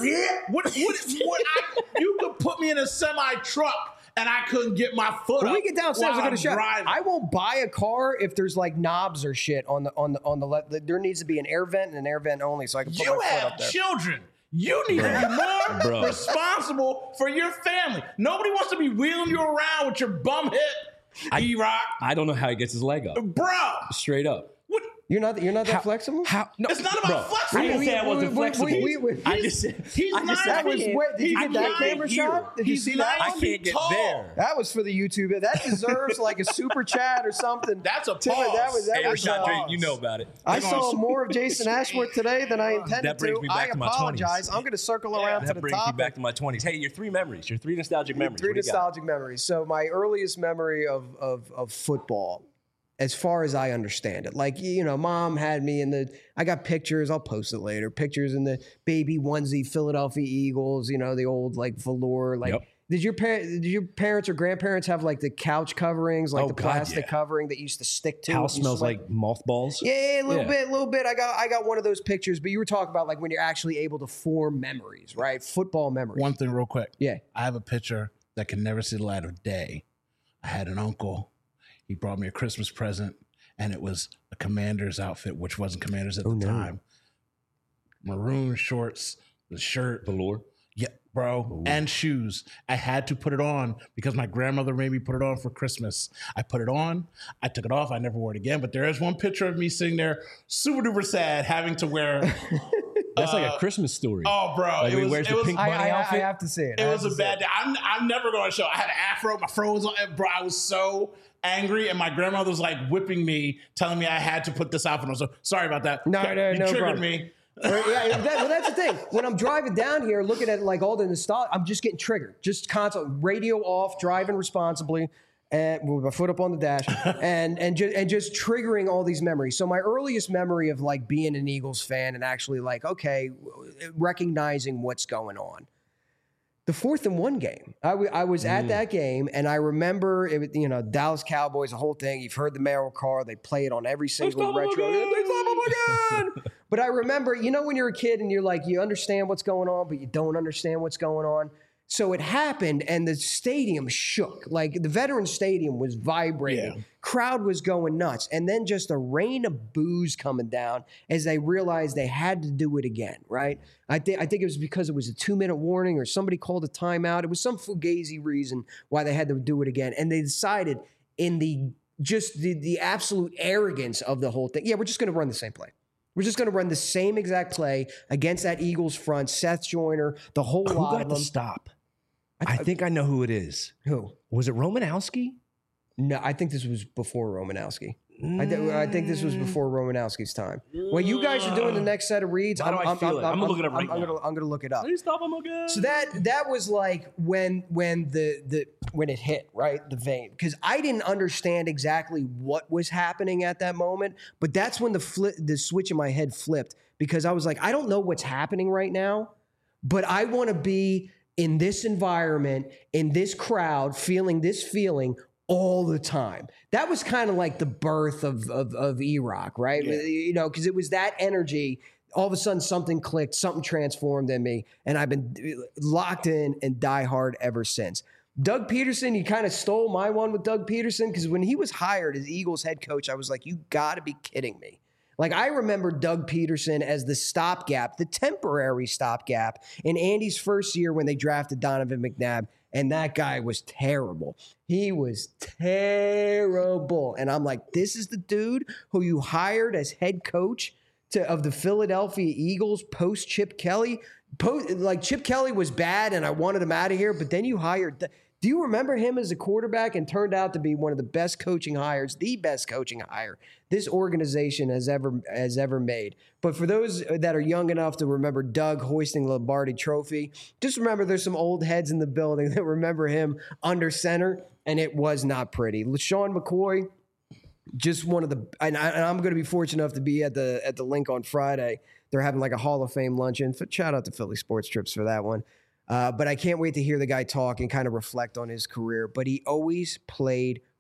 You could put me in a semi truck and I couldn't get my foot When up. we get downstairs, while I'm gonna show. driving. I won't buy a car if there's like knobs or shit on the left. There needs to be an air vent and an air vent only, so I can put You my foot have up there. children. You need to be more responsible for your family. Nobody wants to be wheeling you around with your bum hip, E-Rock. I don't know how he gets his leg up. Bro. Straight up. What? You're not that flexible. How? No, It's not about flexible. I didn't say I wasn't flexible. I just said He's I just not- said That was where, did you get that camera shot? Did you see that? I can't get tall. there. That was for the YouTube. That deserves like a super chat or something. That's a Tim, pause. that Hey, was Rashad Drake, you know about it. I They're saw gonna- more of Jason Ashworth today than I intended That brings to. me back I to my apologize. 20s. I'm going to circle around to That the brings me top. back to my 20s. Hey, your three memories, your three nostalgic memories. Three What do you got? nostalgic memories. So my earliest memory of football, as far as I understand it, like, you know, mom had me I got pictures, I'll post it later, pictures in the baby onesie Philadelphia Eagles, you know, the old like velour, like. Yep. Did your parents or grandparents have like the couch coverings, like Oh, the God, plastic yeah. covering that used to stick to? House it? You smells sweat- like mothballs. Yeah, a little Yeah. bit. I got one of those pictures, but you were talking about like when you're actually able to form memories, right? Football memories. One thing real quick. Yeah. I have a picture that can never see the light of day. I had an uncle. He brought me a Christmas present, and it was a Commander's outfit, which wasn't Commander's at the time. Maroon shorts, the shirt. Velour. Yeah, bro. And shoes. I had to put it on because my grandmother made me put it on for Christmas. I put it on. I took it off. I never wore it again. But there is one picture of me sitting there super duper sad having to wear. That's like a Christmas story. Oh, bro. Like when he wears the pink bunny I outfit. have to see it. It was a bad day. I'm never going to show. I had an afro. My fro was on. Bro, I was so angry. And my grandmother was like whipping me, telling me I had to put this outfit on. So sorry about that. No, You no triggered problem. me. Yeah, well, that's the thing. When I'm driving down here, looking at like all the nostalgia, I'm just getting triggered. Just constant radio off, driving responsibly, and with my foot up on the dash, and just triggering all these memories. So my earliest memory of like being an Eagles fan and actually like recognizing what's going on. The 4th and 1 game. I was at that game, and I remember it. You know, Dallas Cowboys, the whole thing. You've heard the Merrill car. They play it on every single retro. They stop them again. But I remember, you know, when you're a kid and you're like, you understand what's going on, but you don't understand what's going on. So it happened, and the stadium shook. Like the Veterans Stadium was vibrating. Yeah. Crowd was going nuts. And then just a rain of boos coming down as they realized they had to do it again, right? I think it was because it was a 2-minute warning or somebody called a timeout. It was some fugazi reason why they had to do it again. And they decided in the absolute arrogance of the whole thing, yeah, we're just going to run the same play. We're just going to run the same exact play against that Eagles front, Seth Joyner, the whole Who lot got of the them. stop? I think I know who it is. Who? Was it Romanowski? No, I think this was before Romanowski. I think this was before Romanowski's time. When you guys are doing the next set of reads, Why do I feel it? I'm gonna look it up right now. I'm gonna look it up. Please stop him again. So that was like when it hit, right, the vein, because I didn't understand exactly what was happening at that moment, but that's when the switch in my head flipped, because I was like, I don't know what's happening right now, but I want to be in this environment, in this crowd, feeling this feeling all the time. That was kind of like the birth of E-Rock, right? Yeah. You know, because it was that energy. All of a sudden, something clicked, something transformed in me, and I've been locked in and die hard ever since. Doug Peterson, you kind of stole my one with Doug Peterson, because when he was hired as Eagles head coach, I was like, you got to be kidding me. Like, I remember Doug Peterson as the stopgap, the temporary stopgap in Andy's first year when they drafted Donovan McNabb, and that guy was terrible. He was terrible. And I'm like, this is the dude who you hired as head coach of the Philadelphia Eagles post Chip Kelly? Like, Chip Kelly was bad, and I wanted him out of here, but then you hired... Do you remember him as a quarterback, and turned out to be one of the best coaching hires, the best coaching hire this organization has ever made? But for those that are young enough to remember Doug hoisting the Lombardi Trophy, just remember there's some old heads in the building that remember him under center, and it was not pretty. LaShawn McCoy, just one of the, and I'm going to be fortunate enough to be at the link on Friday. They're having like a Hall of Fame luncheon. Shout out to Philly Sports Trips for that one. But I can't wait to hear the guy talk and kind of reflect on his career. But he always played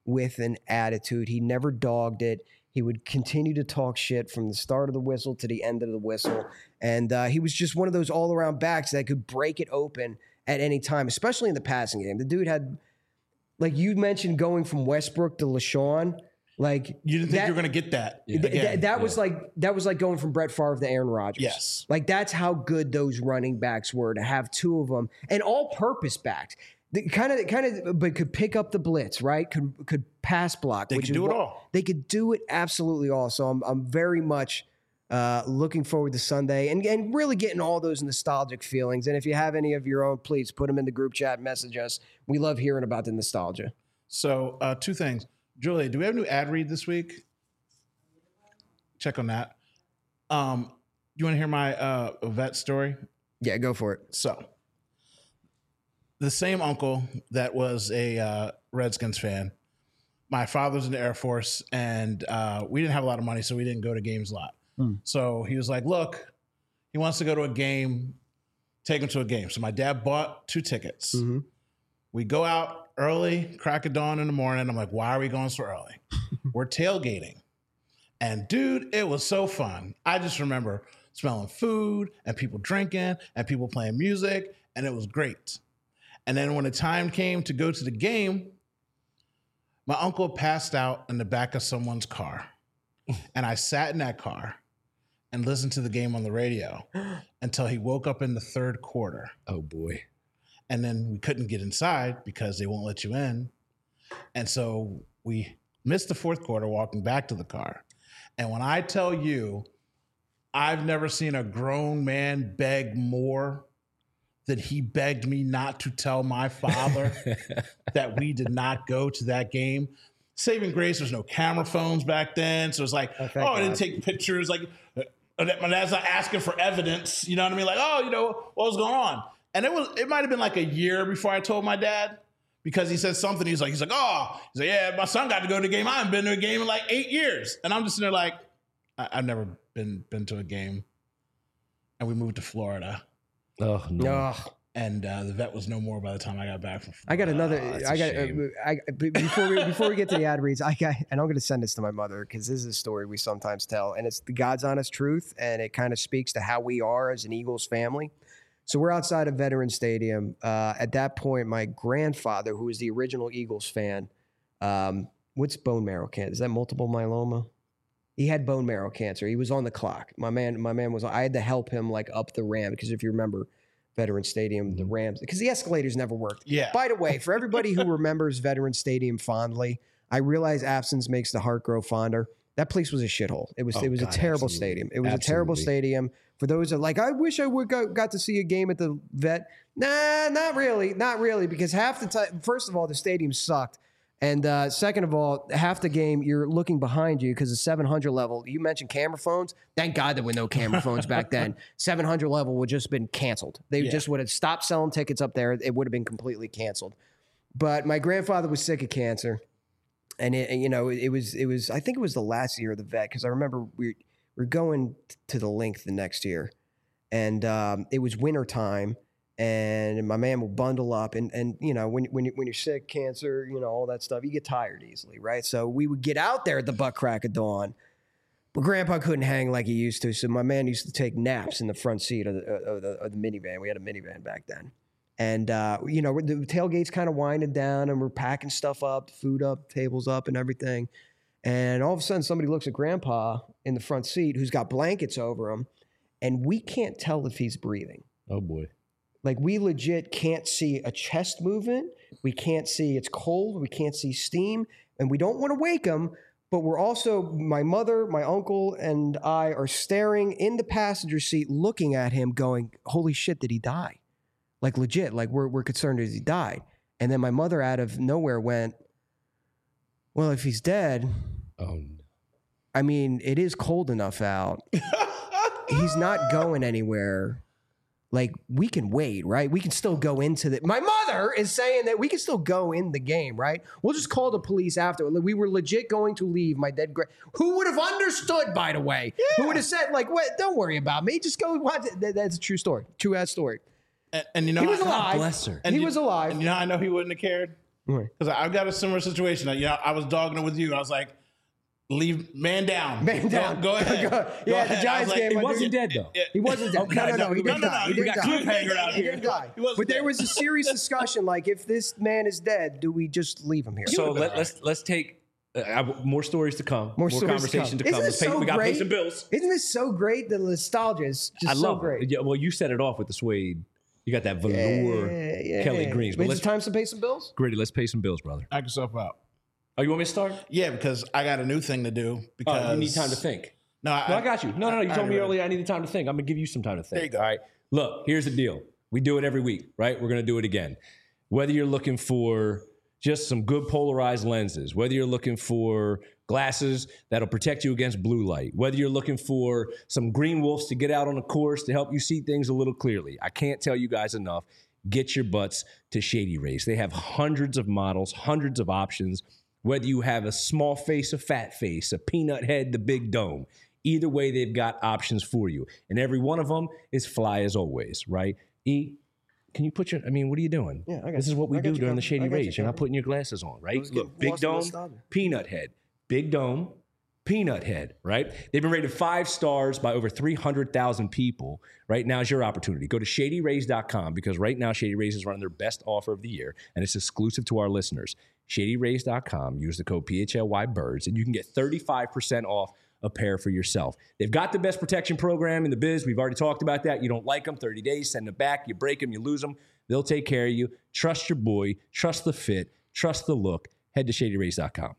with an attitude. He never dogged it. He would continue to talk shit from the start of the whistle to the end of the whistle. And he was just one of those all-around backs that could break it open at any time, especially in the passing game. The dude had, like you mentioned, going from Westbrook to LaShawn. Like You didn't think you were going to get that. again. That was like going from Brett Favre to Aaron Rodgers. Yes. Like that's how good those running backs were, to have two of them, and all-purpose backs. Kind of, but could pick up the blitz, right? Could pass block. They could do it all. They could do it absolutely all. So I'm very much looking forward to Sunday and really getting all those nostalgic feelings. And if you have any of your own, please put them in the group chat. Message us. We love hearing about the nostalgia. So two things. Julia, do we have a new ad read this week? Check on that. You want to hear my vet story? Yeah, go for it. So, the same uncle that was a Redskins fan, my father's in the Air Force, and we didn't have a lot of money, so we didn't go to games a lot. So he was like, look, he wants to go to a game, take him to a game. So my dad bought 2 tickets. We go out early, crack of dawn in the morning. I'm like, why are we going so early? We're tailgating. And dude, it was so fun. I just remember smelling food and people drinking and people playing music, and it was great. And then when the time came to go to the game, my uncle passed out in the back of someone's car. And I sat in that car and listened to the game on the radio until he woke up in the 3rd quarter. Oh, boy. And then we couldn't get inside because they won't let you in. And so we missed the 4th quarter walking back to the car. And when I tell you, I've never seen a grown man beg more that he begged me not to tell my father that we did not go to that game. Saving grace, there's no camera phones back then. So it's like, I didn't take pictures. Like, my dad's not asking for evidence. You know what I mean? Like, what was going on? And it might have been like a year before I told my dad, because he said something. He's like, yeah, my son got to go to the game. I haven't been to a game in like 8 years. And I'm just sitting there like, I've never been to a game. And we moved to Florida. Oh, no. And the vet was no more by the time I got back from Florida. I got another. Before we get to the ad reads, and I'm going to send this to my mother because this is a story we sometimes tell, and it's the God's honest truth, and it kind of speaks to how we are as an Eagles family. So we're outside of Veterans Stadium. At that point, my grandfather, who was the original Eagles fan, what's bone marrow cancer? Is that multiple myeloma? He had bone marrow cancer. He was on the clock. My man was. I had to help him like up the ramp because if you remember, Veterans Stadium, the ramps, because the escalators never worked. Yeah. By the way, for everybody who remembers Veterans Stadium fondly, I realize absence makes the heart grow fonder. That place was a shithole. It was a terrible stadium. It was a terrible stadium. For those that are like, I wish I would got to see a game at the Vet. Nah, not really, because half the time, first of all, the stadium sucked. And second of all, half the game, you're looking behind you because the 700 level, you mentioned camera phones. Thank God there were no camera phones back then. 700 level would just been canceled. They just would have stopped selling tickets up there. It would have been completely canceled. But my grandfather was sick of cancer. And it was, I think it was the last year of the Vet, because I remember we're going to the Link the next year. And it was winter time. And my man will bundle up, and when you're sick, cancer, all that stuff, you get tired easily, right? So we would get out there at the butt crack of dawn, but Grandpa couldn't hang like he used to. So my man used to take naps in the front seat of the minivan. We had a minivan back then, and the tailgate's kind of winding down, and we're packing stuff up, food up, tables up, and everything. And all of a sudden, somebody looks at Grandpa in the front seat, who's got blankets over him, and we can't tell if he's breathing. Oh boy. Like, we legit can't see a chest movement. We can't see it's cold. We can't see steam. And we don't want to wake him. But we're also, my mother, my uncle, and I are staring in the passenger seat looking at him going, holy shit, did he die? Like, legit. Like, we're concerned that he died. And then my mother out of nowhere went, well, if he's dead, I mean, it is cold enough out. He's not going anywhere. Like, we can wait, right? We can still go into the... My mother is saying that we can still go in the game, right? We'll just call the police after. We were legit going to leave my dead... Who would have understood, by the way? Yeah. Who would have said, like, "Wait, don't worry about me. Just go watch it." That's a true story. True-ass story. And he was alive. Bless her. He was alive. And I know he wouldn't have cared? Because I've got a similar situation. I was dogging it with you. I was like, leave man down. Man down. Go ahead. The ahead. Giants game. He wasn't dead though. He wasn't dead. Okay. No, he didn't die. He We didn't got die. cliffhanger out He here. didn't die. He wasn't But there dead. was a serious discussion, like, if this man is dead, do we just leave him here? So let's take more stories to come. More stories conversation to come. Isn't this We got to pay great? some bills. Isn't this so great? The nostalgia is just I so love great. it. Yeah, well, you set it off with the suede. You got that velour Kelly Greens. But Is let's it time to pay some bills? Gritty, let's pay some bills, brother. Knock yourself out. Oh, you want me to start? Yeah, because I got a new thing to do. Because Oh, you need time to think. No, I got you. No. You told me already- earlier I needed time to think. I'm gonna give you some time to think. There you go. All right. Look, here's the deal. We do it every week, right? We're gonna do it again. Whether you're looking for just some good polarized lenses, whether you're looking for glasses that'll protect you against blue light, whether you're looking for some green wolves to get out on the course to help you see things a little clearly. I can't tell you guys enough. Get your butts to Shady Rays. They have hundreds of models, hundreds of options. Whether you have a small face, a fat face, a peanut head, the big dome, either way, they've got options for you. And every one of them is fly as always, right? E, can you put your, what are you doing? Yeah, I got This is you. what we I got do you during the covered. Shady I got you Rays. You're not covered. putting your glasses on, right? was Look, getting big lost in dome, nostalgia. peanut head. Big dome, peanut head, right? They've been rated 5 stars by over 300,000 people. Right now is your opportunity. Go to ShadyRays.com because right now Shady Rays is running their best offer of the year, and it's exclusive to our listeners. ShadyRays.com. Use the code PHLYBirds, and you can get 35% off a pair for yourself. They've got the best protection program in the biz. We've already talked about that. You don't like them, 30 days, send them back. You break them, you lose them. They'll take care of you. Trust your boy. Trust the fit. Trust the look. Head to ShadyRays.com.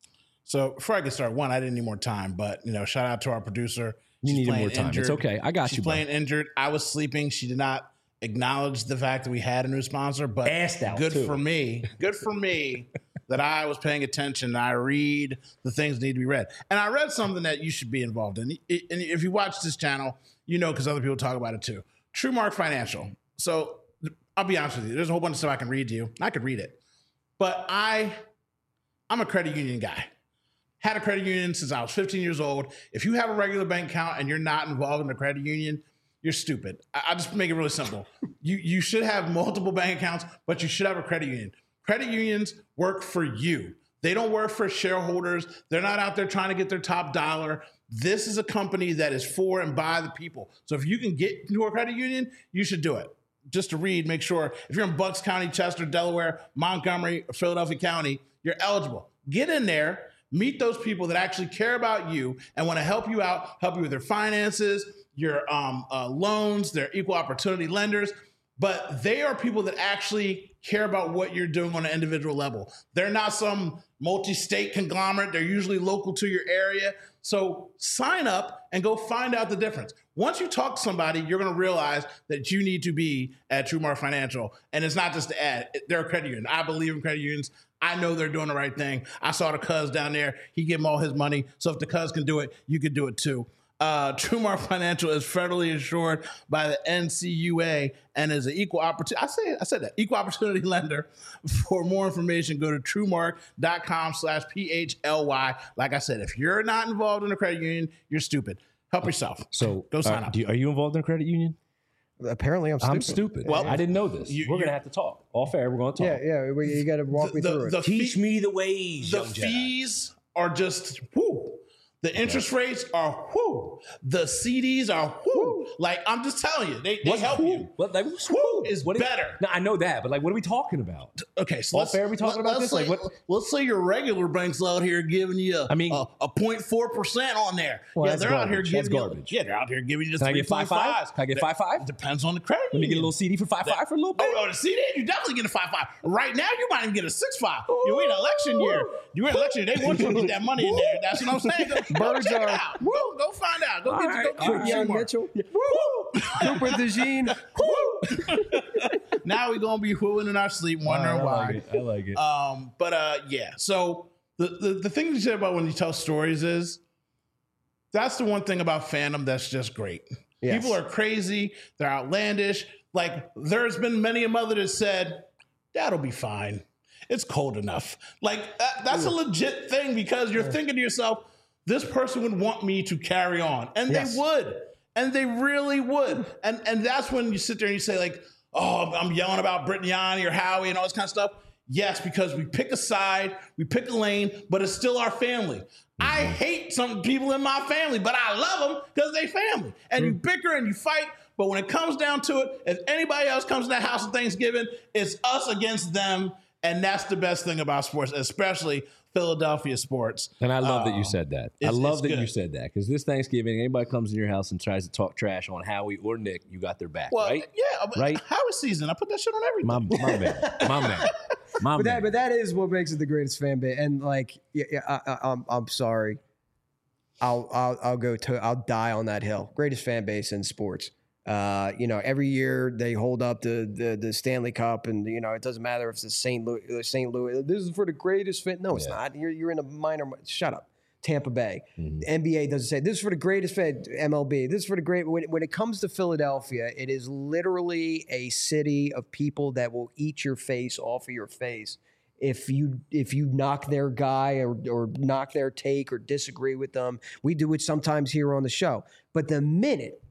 So before I get started, I didn't need more time, but shout out to our producer. You She's needed playing more time. injured. It's okay. I got She's you, bro. playing injured. I was sleeping. She did not acknowledge the fact that we had a new sponsor, but Assed out, good too. for me. Good for me that I was paying attention. I read the things that need to be read. And I read something that you should be involved in. And if you watch this channel, because other people talk about it too. TrueMark Financial. So I'll be honest with you. There's a whole bunch of stuff I can read to you. And I could read it. But I'm a credit union guy. Had a credit union since I was 15 years old. If you have a regular bank account and you're not involved in a credit union, you're stupid. I'll just make it really simple. You should have multiple bank accounts, but you should have a credit union. Credit unions work for you. They don't work for shareholders. They're not out there trying to get their top dollar. This is a company that is for and by the people. So if you can get into a credit union, you should do it. Just to read, make sure if you're in Bucks County, Chester, Delaware, Montgomery, or Philadelphia County, you're eligible. Get in there. Meet those people that actually care about you and want to help you out, help you with their finances, your loans, their equal opportunity lenders. But they are people that actually care about what you're doing on an individual level. They're not some multi-state conglomerate. They're usually local to your area. So sign up and go find out the difference. Once you talk to somebody, you're going to realize that you need to be at TrueMark Financial. And it's not just an ad. They're a credit union. I believe in credit unions. I know they're doing the right thing. I saw the cuz down there. He gave him all his money. So if the cuz can do it, you could do it too. TrueMark Financial is federally insured by the NCUA and is an equal opportunity. I said that equal opportunity lender. For more information, go to truemark.com/PHLY. Like I said, if you're not involved in a credit union, you're stupid. Help yourself. So go sign up. Are you involved in a credit union? Apparently, I'm stupid. I'm stupid. Well, I didn't know this. We're going to have to talk. Off air, we're going to talk. Yeah. You got to walk me through it. Teach me the ways, The young Jedi. fees are just whoo. The interest rates are whoo. The CDs are whoo. Like I'm just telling you, they help you. What, like, Whoo is better. No, I know that, but like, what are we talking about? Okay, so Off air, we talking about this? Say, Like, what? Let's say your regular bank's out here giving you a 0.4% on there. Well, yeah, that's they're out here garbage. giving That's you. garbage. Yeah, they're out here giving you the Can I get 3.5. 5.5? Can I get 5.5? Depends on the credit. Let me get a little CD for 5.5 for a little bit. Oh, the CD, you definitely get a 5.5. Right now, you might even get a 6.5. You're in election year. You're in election year. They want you to get that money in there. That's what I'm saying. Go Birds check are- it out. Go find out. Go get Quick, your young mark. Mitchell. Cooper DeJean. Now we're gonna be whooing in our sleep, wondering why. I like it. Yeah. So the thing you said about when you tell stories is that's the one thing about fandom that's just great. Yes. People are crazy. They're outlandish. Like there's been many a mother that said, "That'll be fine. It's cold enough." Like that's a legit thing because you're thinking to yourself, this person would want me to carry on. And Yes. they would. And they really would. And that's when you sit there and you say like, oh, I'm yelling about Brittany or Howie and all this kind of stuff. Yes, because we pick a side, we pick a lane, but it's still our family. I hate some people in my family, but I love them because they family. And you bicker and you fight, but when it comes down to it, if anybody else comes to that house on Thanksgiving, it's us against them. And that's the best thing about sports, especially Philadelphia sports. And I love that you said that. I love that good. you said that because this Thanksgiving, anybody comes in your house and tries to talk trash on Howie or Nick, you got their back, right? Yeah, right? Howie season, I put that shit on everything. My man. But that is what makes it the greatest fan base. And like, I'm sorry, I'll die on that hill. Greatest fan base in sports. Every year they hold up the Stanley Cup, and it doesn't matter if it's the St. Louis. This is for the greatest fan. No, it's not. You're in a minor. Shut up. Tampa Bay. The NBA doesn't say this is for the greatest fan. MLB. This is for the great. When it comes to Philadelphia, it is literally a city of people that will eat your face off of your face if you knock their guy or knock their take or disagree with them. We do it sometimes here on the show, but the minute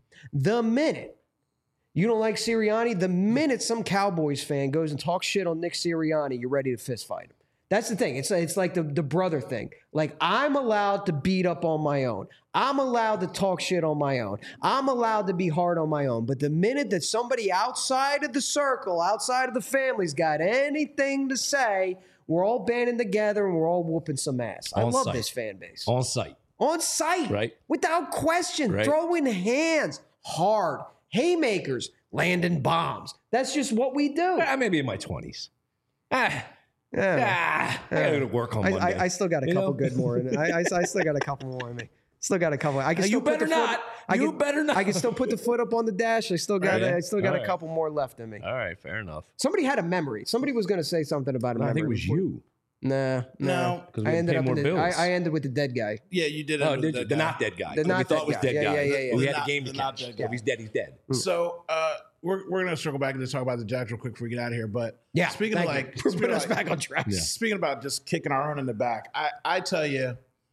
you don't like Sirianni, the minute some Cowboys fan goes and talks shit on Nick Sirianni, you're ready to fist fight him. That's the thing. It's like the brother thing. Like, I'm allowed to beat up on my own. I'm allowed to talk shit on my own. I'm allowed to be hard on my own. But the minute that somebody outside of the circle, outside of the family's got anything to say, we're all banding together and we're all whooping some ass. I love this fan base. On site. On site. Right. Without question. Right. Throwing hands. Hard. Haymakers. Landing bombs. That's just what we do. Maybe in my 20s. I got to work on Monday. I still got a couple good more in me. I still got a couple more in me. Still got a couple. I can still you better not. You better not. I can still put the foot up on the dash. I still got right. a couple more left in me. All right, fair enough. Somebody had a memory. Somebody was going to say something about a memory. I think it was you. No. Because we ended more bills. I ended with the dead guy. Yeah, you did. Oh, did you? The not dead guy. The not we thought was dead guy. Yeah. We had the game to catch. If he's dead, he's dead. So we're gonna circle back and just talk about the Jacks real quick before we get out of here. But speaking of put us back on track. Yeah. Speaking about just kicking our own in the back, I tell you,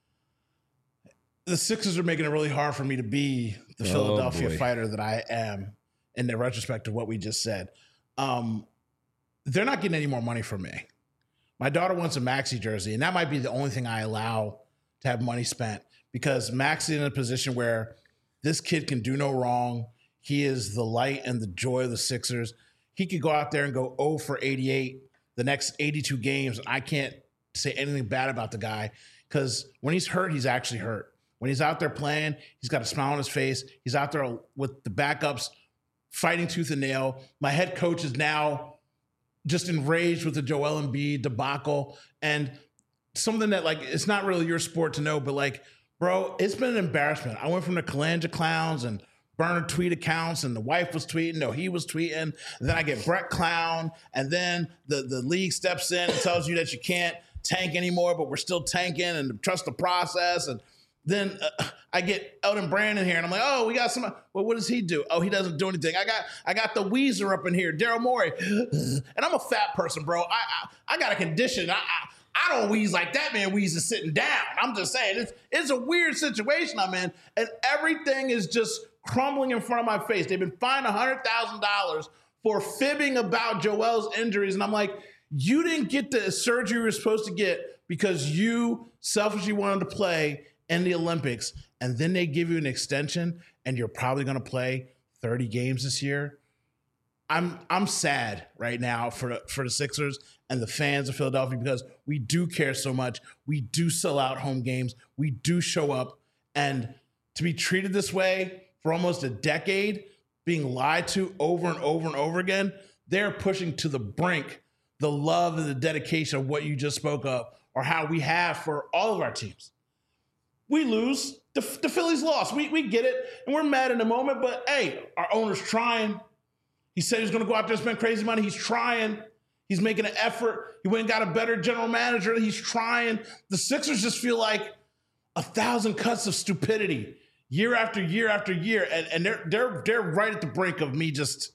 the Sixers are making it really hard for me to be the Philadelphia fighter that I am. In the retrospect of what we just said, they're not getting any more money from me. My daughter wants a Maxey jersey, and that might be the only thing I allow to have money spent because Maxey is in a position where this kid can do no wrong. He is the light and the joy of the Sixers. He could go out there and go 0 for 88 the next 82 games. I can't say anything bad about the guy because when he's hurt, he's actually hurt. When he's out there playing, he's got a smile on his face. He's out there with the backups, fighting tooth and nail. My head coach is now just enraged with the Joel Embiid debacle and something that, like, it's not really your sport to know, but, like, bro, it's been an embarrassment. I went from the Kalanja clowns and burner tweet accounts and the wife was tweeting, no, he was tweeting. And then I get Brett Clown and then the league steps in and tells you that you can't tank anymore, but we're still tanking and trust the process. And then I get Elton Brand in here, and I'm like, oh, we got some. Well, what does he do? Oh, he doesn't do anything. I got the Weezer up in here, Daryl Morey, and I'm a fat person, bro. I got a condition. I don't wheeze like that man wheezes sitting down. I'm just saying, it's a weird situation I'm in, and everything is just crumbling in front of my face. They've been fined $100,000 for fibbing about Joel's injuries, and I'm like, you didn't get the surgery you were supposed to get because you selfishly wanted to play in the Olympics, and then they give you an extension and you're probably going to play 30 games this year. I'm sad right now for the Sixers and the fans of Philadelphia because we do care so much. We do sell out home games. We do show up, and to be treated this way for almost a decade, being lied to over and over and over again, they're pushing to the brink the love and the dedication of what you just spoke of or how we have for all of our teams. We lose. The Phillies lost. We get it, and we're mad in the moment, but, hey, our owner's trying. He said he's going to go out there and spend crazy money. He's trying. He's making an effort. He went and got a better general manager. He's trying. The Sixers just feel like 1,000 cuts of stupidity year after year after year, and they're right at the brink of me just...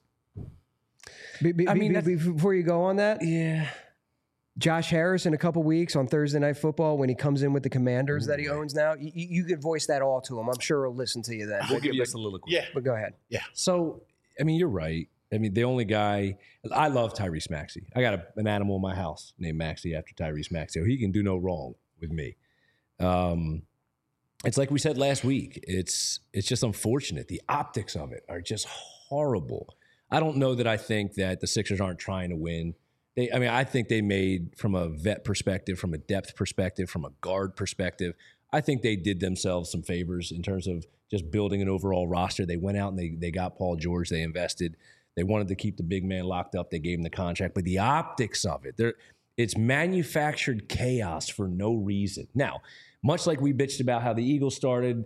Before you go on that, yeah. Josh Harris in a couple weeks on Thursday Night Football when he comes in with the Commanders that he owns now, you could voice that all to him. I'm sure he'll listen to you then. We'll give you a soliloquy. Yeah. But go ahead. Yeah. So, I mean, you're right. I mean, the only guy I love Tyrese Maxey. I got an animal in my house named Maxey after Tyrese Maxey. So he can do no wrong with me. It's like we said last week. It's just unfortunate. The optics of it are just horrible. I don't know that I think that the Sixers aren't trying to win. I think they made, from a vet perspective, from a depth perspective, from a guard perspective, I think they did themselves some favors in terms of just building an overall roster. They went out and they got Paul George. They invested. They wanted to keep the big man locked up. They gave him the contract. But the optics of it, it's manufactured chaos for no reason. Now, much like we bitched about how the Eagles started,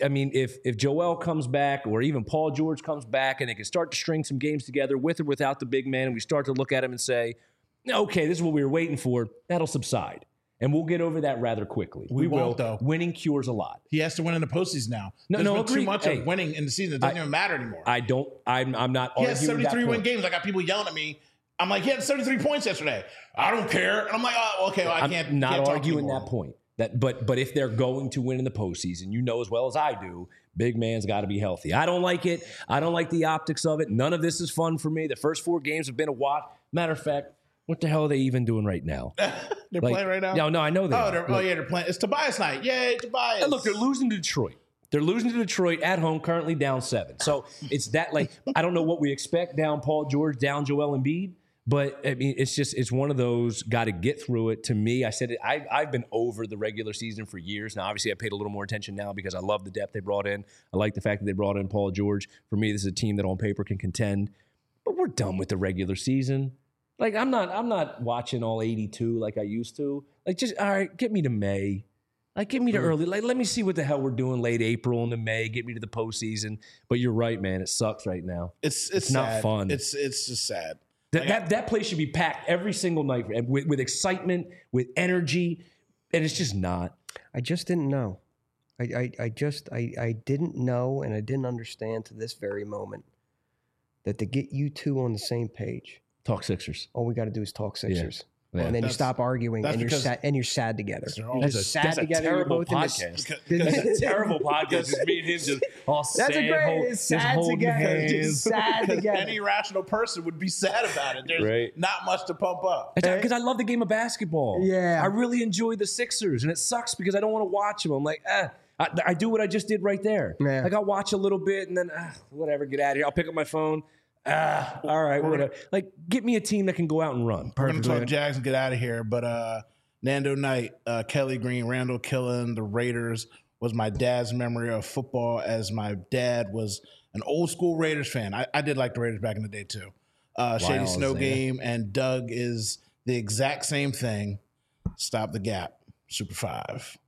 if Joel comes back or even Paul George comes back and they can start to string some games together with or without the big man, and we start to look at him and say, okay, this is what we were waiting for, that'll subside. And we'll get over that rather quickly. We will. Though. Winning cures a lot. He has to win in the postseason now. There's been too much of winning in the season. It doesn't even matter anymore. I'm not arguing. He has 73 win games. I got people yelling at me. I'm like, he had 73 points yesterday. I don't care. And I'm like, oh, okay, well, I can't. I'm not can't arguing that point. But if they're going to win in the postseason, you know as well as I do, big man's got to be healthy. I don't like it. I don't like the optics of it. None of this is fun for me. The first 4 games have been a watch. Matter of fact, what the hell are they even doing right now? They're playing right now? No, I know they they're playing. It's Tobias night. Yay, Tobias. And look, they're losing to Detroit. They're losing to Detroit at home, currently down 7. So it's that, I don't know what we expect, down Paul George, down Joel Embiid. But, it's one of those, got to get through it. To me, I said it, I've been over the regular season for years. Now, obviously, I paid a little more attention now because I love the depth they brought in. I like the fact that they brought in Paul George. For me, this is a team that on paper can contend. But we're done with the regular season. I'm not watching all 82 like I used to. Just, all right, get me to May. Get me to early. Let me see what the hell we're doing late April into May. Get me to the postseason. But you're right, man. It sucks right now. It's not fun. It's just sad. That place should be packed every single night with excitement, with energy, and it's just not. I just didn't know. I didn't know, and I didn't understand to this very moment that to get you two on the same page, talk Sixers. All we got to do is talk Sixers. Yeah. And then you stop arguing, and you're sad. And you're sad together. That's a terrible podcast. That's a terrible podcast. It's me and him just all sad. That's a great. Sad together. Sad together. Any rational person would be sad about it. There's not much to pump up. Because I love the game of basketball. Yeah, I really enjoy the Sixers, and it sucks because I don't want to watch them. I'm like, I do what I just did right there. Yeah. I'll watch a little bit, and then whatever, get out of here. I'll pick up my phone. All right, whatever. Get me a team that can go out and run. We're going to talk Jags and get out of here. But Nando Knight, Kelly Green, Randall Killen, the Raiders was my dad's memory of football, as my dad was an old school Raiders fan. I did like the Raiders back in the day too. Shady Snow Game and Doug is the exact same thing. Stop the Gap. Super 5.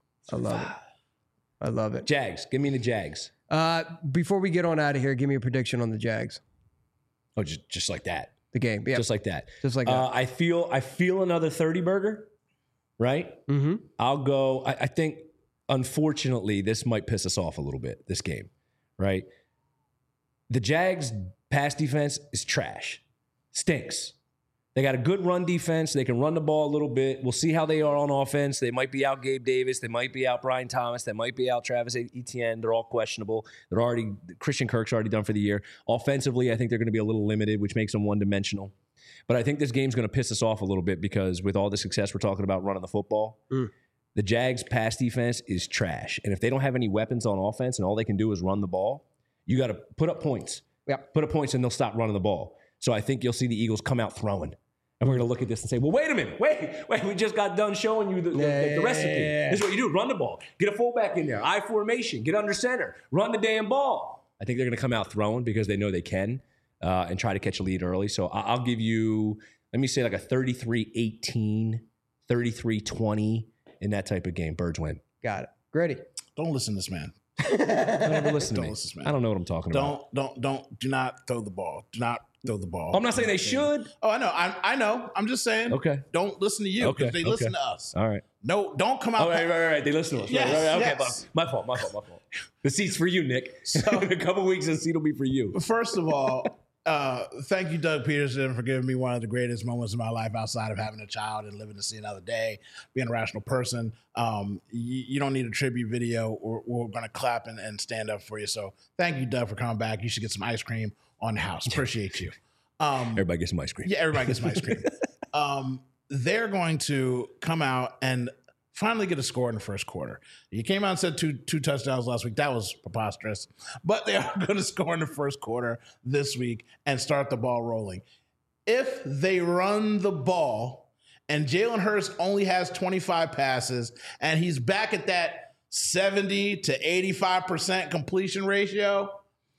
I love it. Jags. Give me the Jags. Before we get on out of here, give me a prediction on the Jags. Oh, just like that. The game, yeah, just like that. Just like that. I feel another 30 burger, right? Mm-hmm. I'll go. I think, unfortunately, this might piss us off a little bit. This game, right? The Jags' pass defense is trash, stinks. They got a good run defense. They can run the ball a little bit. We'll see how they are on offense. They might be out Gabe Davis. They might be out Brian Thomas. They might be out Travis Etienne. They're all questionable. Christian Kirk's already done for the year. Offensively, I think they're going to be a little limited, which makes them one-dimensional. But I think this game's going to piss us off a little bit because with all the success we're talking about running the football, the Jags' pass defense is trash. And if they don't have any weapons on offense and all they can do is run the ball, you got to put up points. Yeah. Put up points and they'll stop running the ball. So I think you'll see the Eagles come out throwing. And we're going to look at this and say, well, wait a minute. Wait. We just got done showing you the recipe. This is what you do. Run the ball. Get a fullback in there. I formation. Get under center. Run the damn ball. I think they're going to come out throwing because they know they can and try to catch a lead early. So I'll give you, let me say like a 33-18, 33-20 in that type of game. Birds win. Got it. Grady. Don't listen to this man. Don't ever listen to me. Listen to this man. I don't know what I'm talking about. Do not throw the ball. Do not throw the ball. I'm not saying they should. Oh, I know. I know. I'm just saying. Okay. Don't listen to you because they listen to us. All right. No, don't come out. Oh, right. They listen to us. Yes, right. Okay, yes. My fault. The seat's for you, Nick. So, in a couple weeks, the seat will be for you. First of all, thank you, Doug Peterson, for giving me one of the greatest moments of my life outside of having a child and living to see another day, being a rational person. You don't need a tribute video. We're going to clap and stand up for you. So thank you, Doug, for coming back. You should get some ice cream on the house. Appreciate you. Everybody gets some ice cream. Yeah, everybody gets some ice cream. They're going to come out and finally get a score in the first quarter. You came out and said two touchdowns last week. That was preposterous. But they are going to score in the first quarter this week and start the ball rolling. If they run the ball and Jalen Hurts only has 25 passes and he's back at that 70 to 85% completion ratio,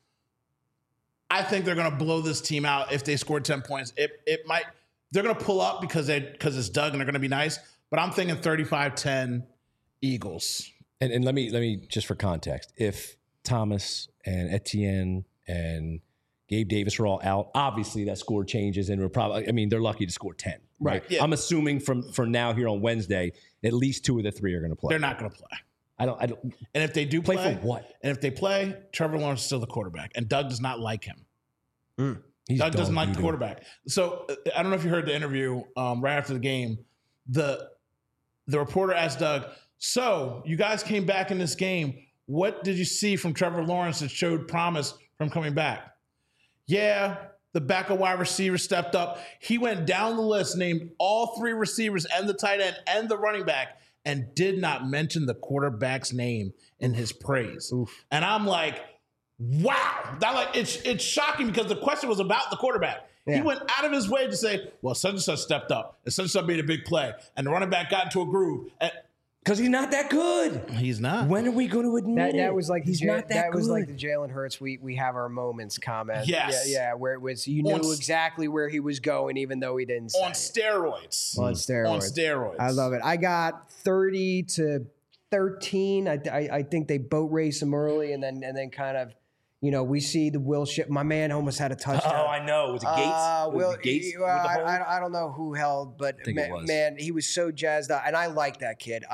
I think they're going to blow this team out if they score 10 points. It might. They're going to pull up because it's Doug and they're going to be nice. But I'm thinking 35-10 Eagles. And let me just for context, if Thomas and Etienne and Gabe Davis are all out, obviously that score changes and they're lucky to score 10. Right. Yeah. I'm assuming from now here on Wednesday, at least 2 of the 3 are going to play. They're not going to play. I don't. And if they do play for what? And if they play, Trevor Lawrence is still the quarterback, and Doug does not like him. Doug doesn't like the quarterback. So I don't know if you heard the interview right after the game. The reporter asked Doug, "So you guys came back in this game. What did you see from Trevor Lawrence that showed promise from coming back?" Yeah, the backup wide receiver stepped up. He went down the list, named all 3 receivers and the tight end and the running back, and did not mention the quarterback's name in his praise. Oof. And I'm like, wow. It's shocking because the question was about the quarterback. Yeah. He went out of his way to say, well, such and such stepped up, and such and such made a big play, and the running back got into a groove. Because he's not that good. He's not. When are we going to admit that was like he's not that good? Was like the Jalen Hurts we have our moments comment. Yes. Yeah, where it was you knew exactly where he was going even though he didn't say on steroids. On steroids. I love it. I got 30-13. I think they boat race him early and then kind of, we see the Will Shipp. My man almost had a touchdown. Oh, I know. Was it Gates? Gates? I don't know who held, but man, he was so jazzed up. And I like that kid.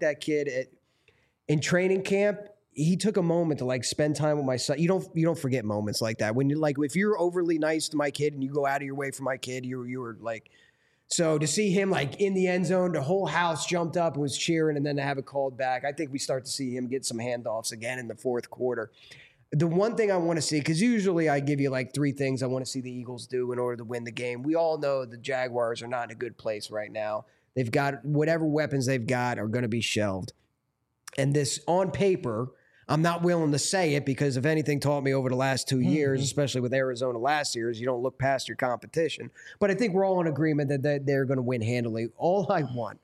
In training camp. He took a moment to spend time with my son. You don't forget moments like that. When you if you're overly nice to my kid and you go out of your way for my kid, you were like. So to see him in the end zone, the whole house jumped up and was cheering, and then to have it called back, I think we start to see him get some handoffs again in the fourth quarter. The one thing I want to see, because usually I give you 3 things I want to see the Eagles do in order to win the game. We all know the Jaguars are not in a good place right now. They've got whatever weapons they've got are going to be shelved. And this on paper, I'm not willing to say it because if anything taught me over the last 2 years, especially with Arizona last year, is you don't look past your competition. But I think we're all in agreement that they're going to win handily. All I want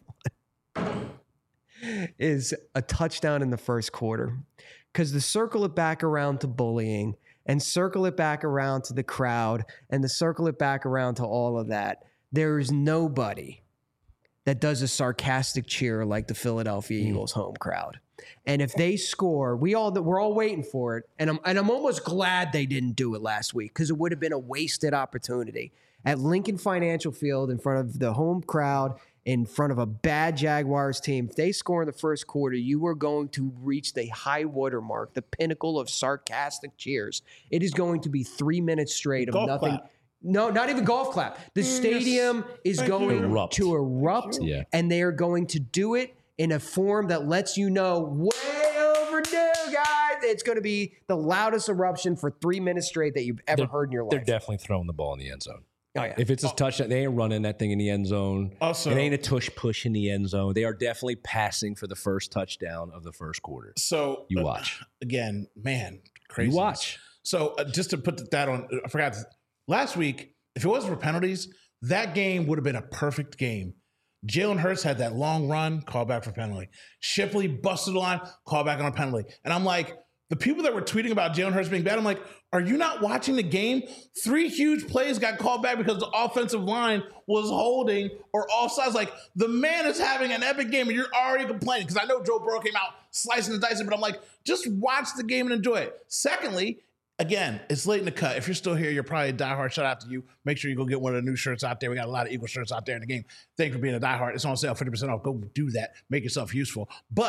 is a touchdown in the first quarter. Because to circle it back around to bullying and circle it back around to the crowd and to circle it back around to all of that, there is nobody that does a sarcastic cheer like the Philadelphia Eagles home crowd. And if they score, we're all waiting for it. And I'm almost glad they didn't do it last week because it would have been a wasted opportunity. At Lincoln Financial Field in front of the home crowd, in front of a bad Jaguars team, if they score in the first quarter, you are going to reach the high water mark, the pinnacle of sarcastic cheers. It is going to be 3 minutes straight of nothing. Clap. No, not even golf clap. The stadium is going to erupt, and they are going to do it in a form that lets you know, way overdue, guys. It's going to be the loudest eruption for 3 minutes straight that you've ever heard in your life. They're definitely throwing the ball in the end zone. Oh, yeah. If it's a touchdown, they ain't running that thing in the end zone. Also, it ain't a tush push in the end zone. They are definitely passing for the first touchdown of the first quarter. So you watch. Again, man, crazy. You watch. So just to put that on, I forgot. Last week, if it wasn't for penalties, that game would have been a perfect game. Jalen Hurts had that long run, call back for penalty. Shipley busted the line, call back on a penalty. And I'm like, the people that were tweeting about Jalen Hurts being bad, I'm like, are you not watching the game? 3 huge plays got called back because the offensive line was holding or offsides. Like, the man is having an epic game and you're already complaining. Because I know Joe Burrow came out slicing and dicing, but I'm like, just watch the game and enjoy it. Secondly, again, it's late in the cut. If you're still here, you're probably a diehard. Shout out to you. Make sure you go get one of the new shirts out there. We got a lot of Eagle shirts out there in the game. Thank you for being a diehard. It's on sale, 50% off. Go do that. Make yourself useful. But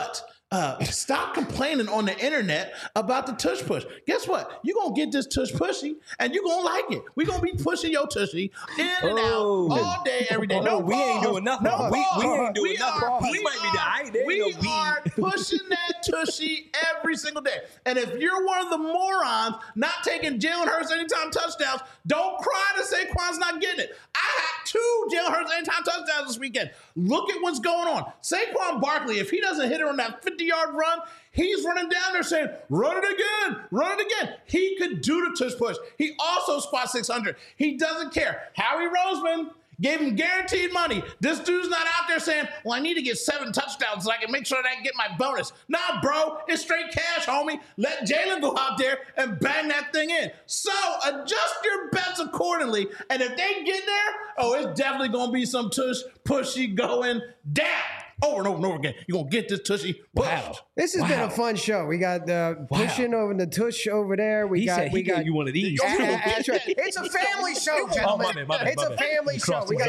stop complaining on the internet about the tush push. Guess what? You're going to get this tush pushy, and you're going to like it. We're going to be pushing your tushy in and out all day, every day. No, we ain't doing nothing. No, we ain't doing nothing. We are pushing that tushy every single day. And if you're one of the morons not taking Jalen Hurts anytime touchdowns, don't cry that Saquon's not getting it. I had 2 Jalen Hurts anytime touchdowns this weekend. Look at what's going on. Saquon Barkley, if he doesn't hit it on that 50-yard run, he's running down there saying, run it again, run it again. He could do the tush push. He also squats 600. He doesn't care. Howie Roseman gave him guaranteed money. This dude's not out there saying, well, I need to get 7 touchdowns so I can make sure that I get my bonus. Nah, bro, it's straight cash, homie. Let Jalen go out there and bang that thing in. So adjust your bets accordingly. And if they get there, oh, it's definitely going to be some tush pushy going down. Over and over and over again. You're going to get this tushy pushed. Wow. This has been a fun show. We got the pushing over the tush over there. He said he gave you one of these. That's right. It's a family show, gentlemen. It's a family show. We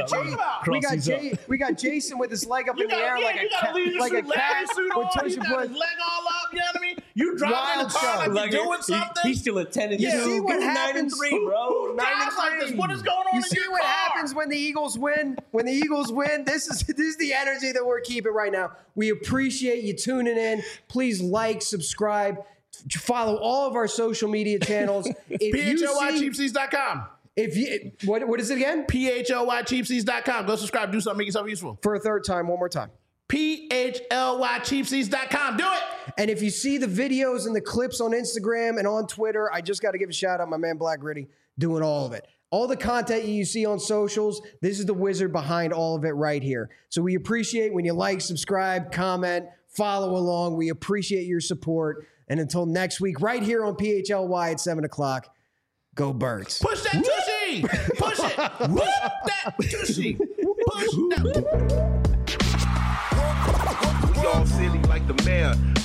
got Jason with his leg up in the air like a cat with tush his leg all up. You know what I mean? You driving the car like you're doing something. He's still at 10 and 2. You see what happens, 9-3, bro. 9-3. What is going on? You see what happens when the Eagles win? When the Eagles win, this is the energy that we're keeping right now. We appreciate you tuning in. Please like, subscribe, follow all of our social media channels. PHLYCheapseats.com. What is it again? PHLYCheapseats.com. Go subscribe. Do something. Make yourself useful. For a third time, one more time. PHLYCheapseats.com. Do it. And if you see the videos and the clips on Instagram and on Twitter, I just got to give a shout out, my man Black Gritty, doing all of it. All the content you see on socials, this is the wizard behind all of it right here. So we appreciate when you like, subscribe, comment, follow along. We appreciate your support. And until next week, right here on PHLY at 7 o'clock, go Birds. Push that tushy. Push it. Push that tushy. Push that. We all silly like the mayor.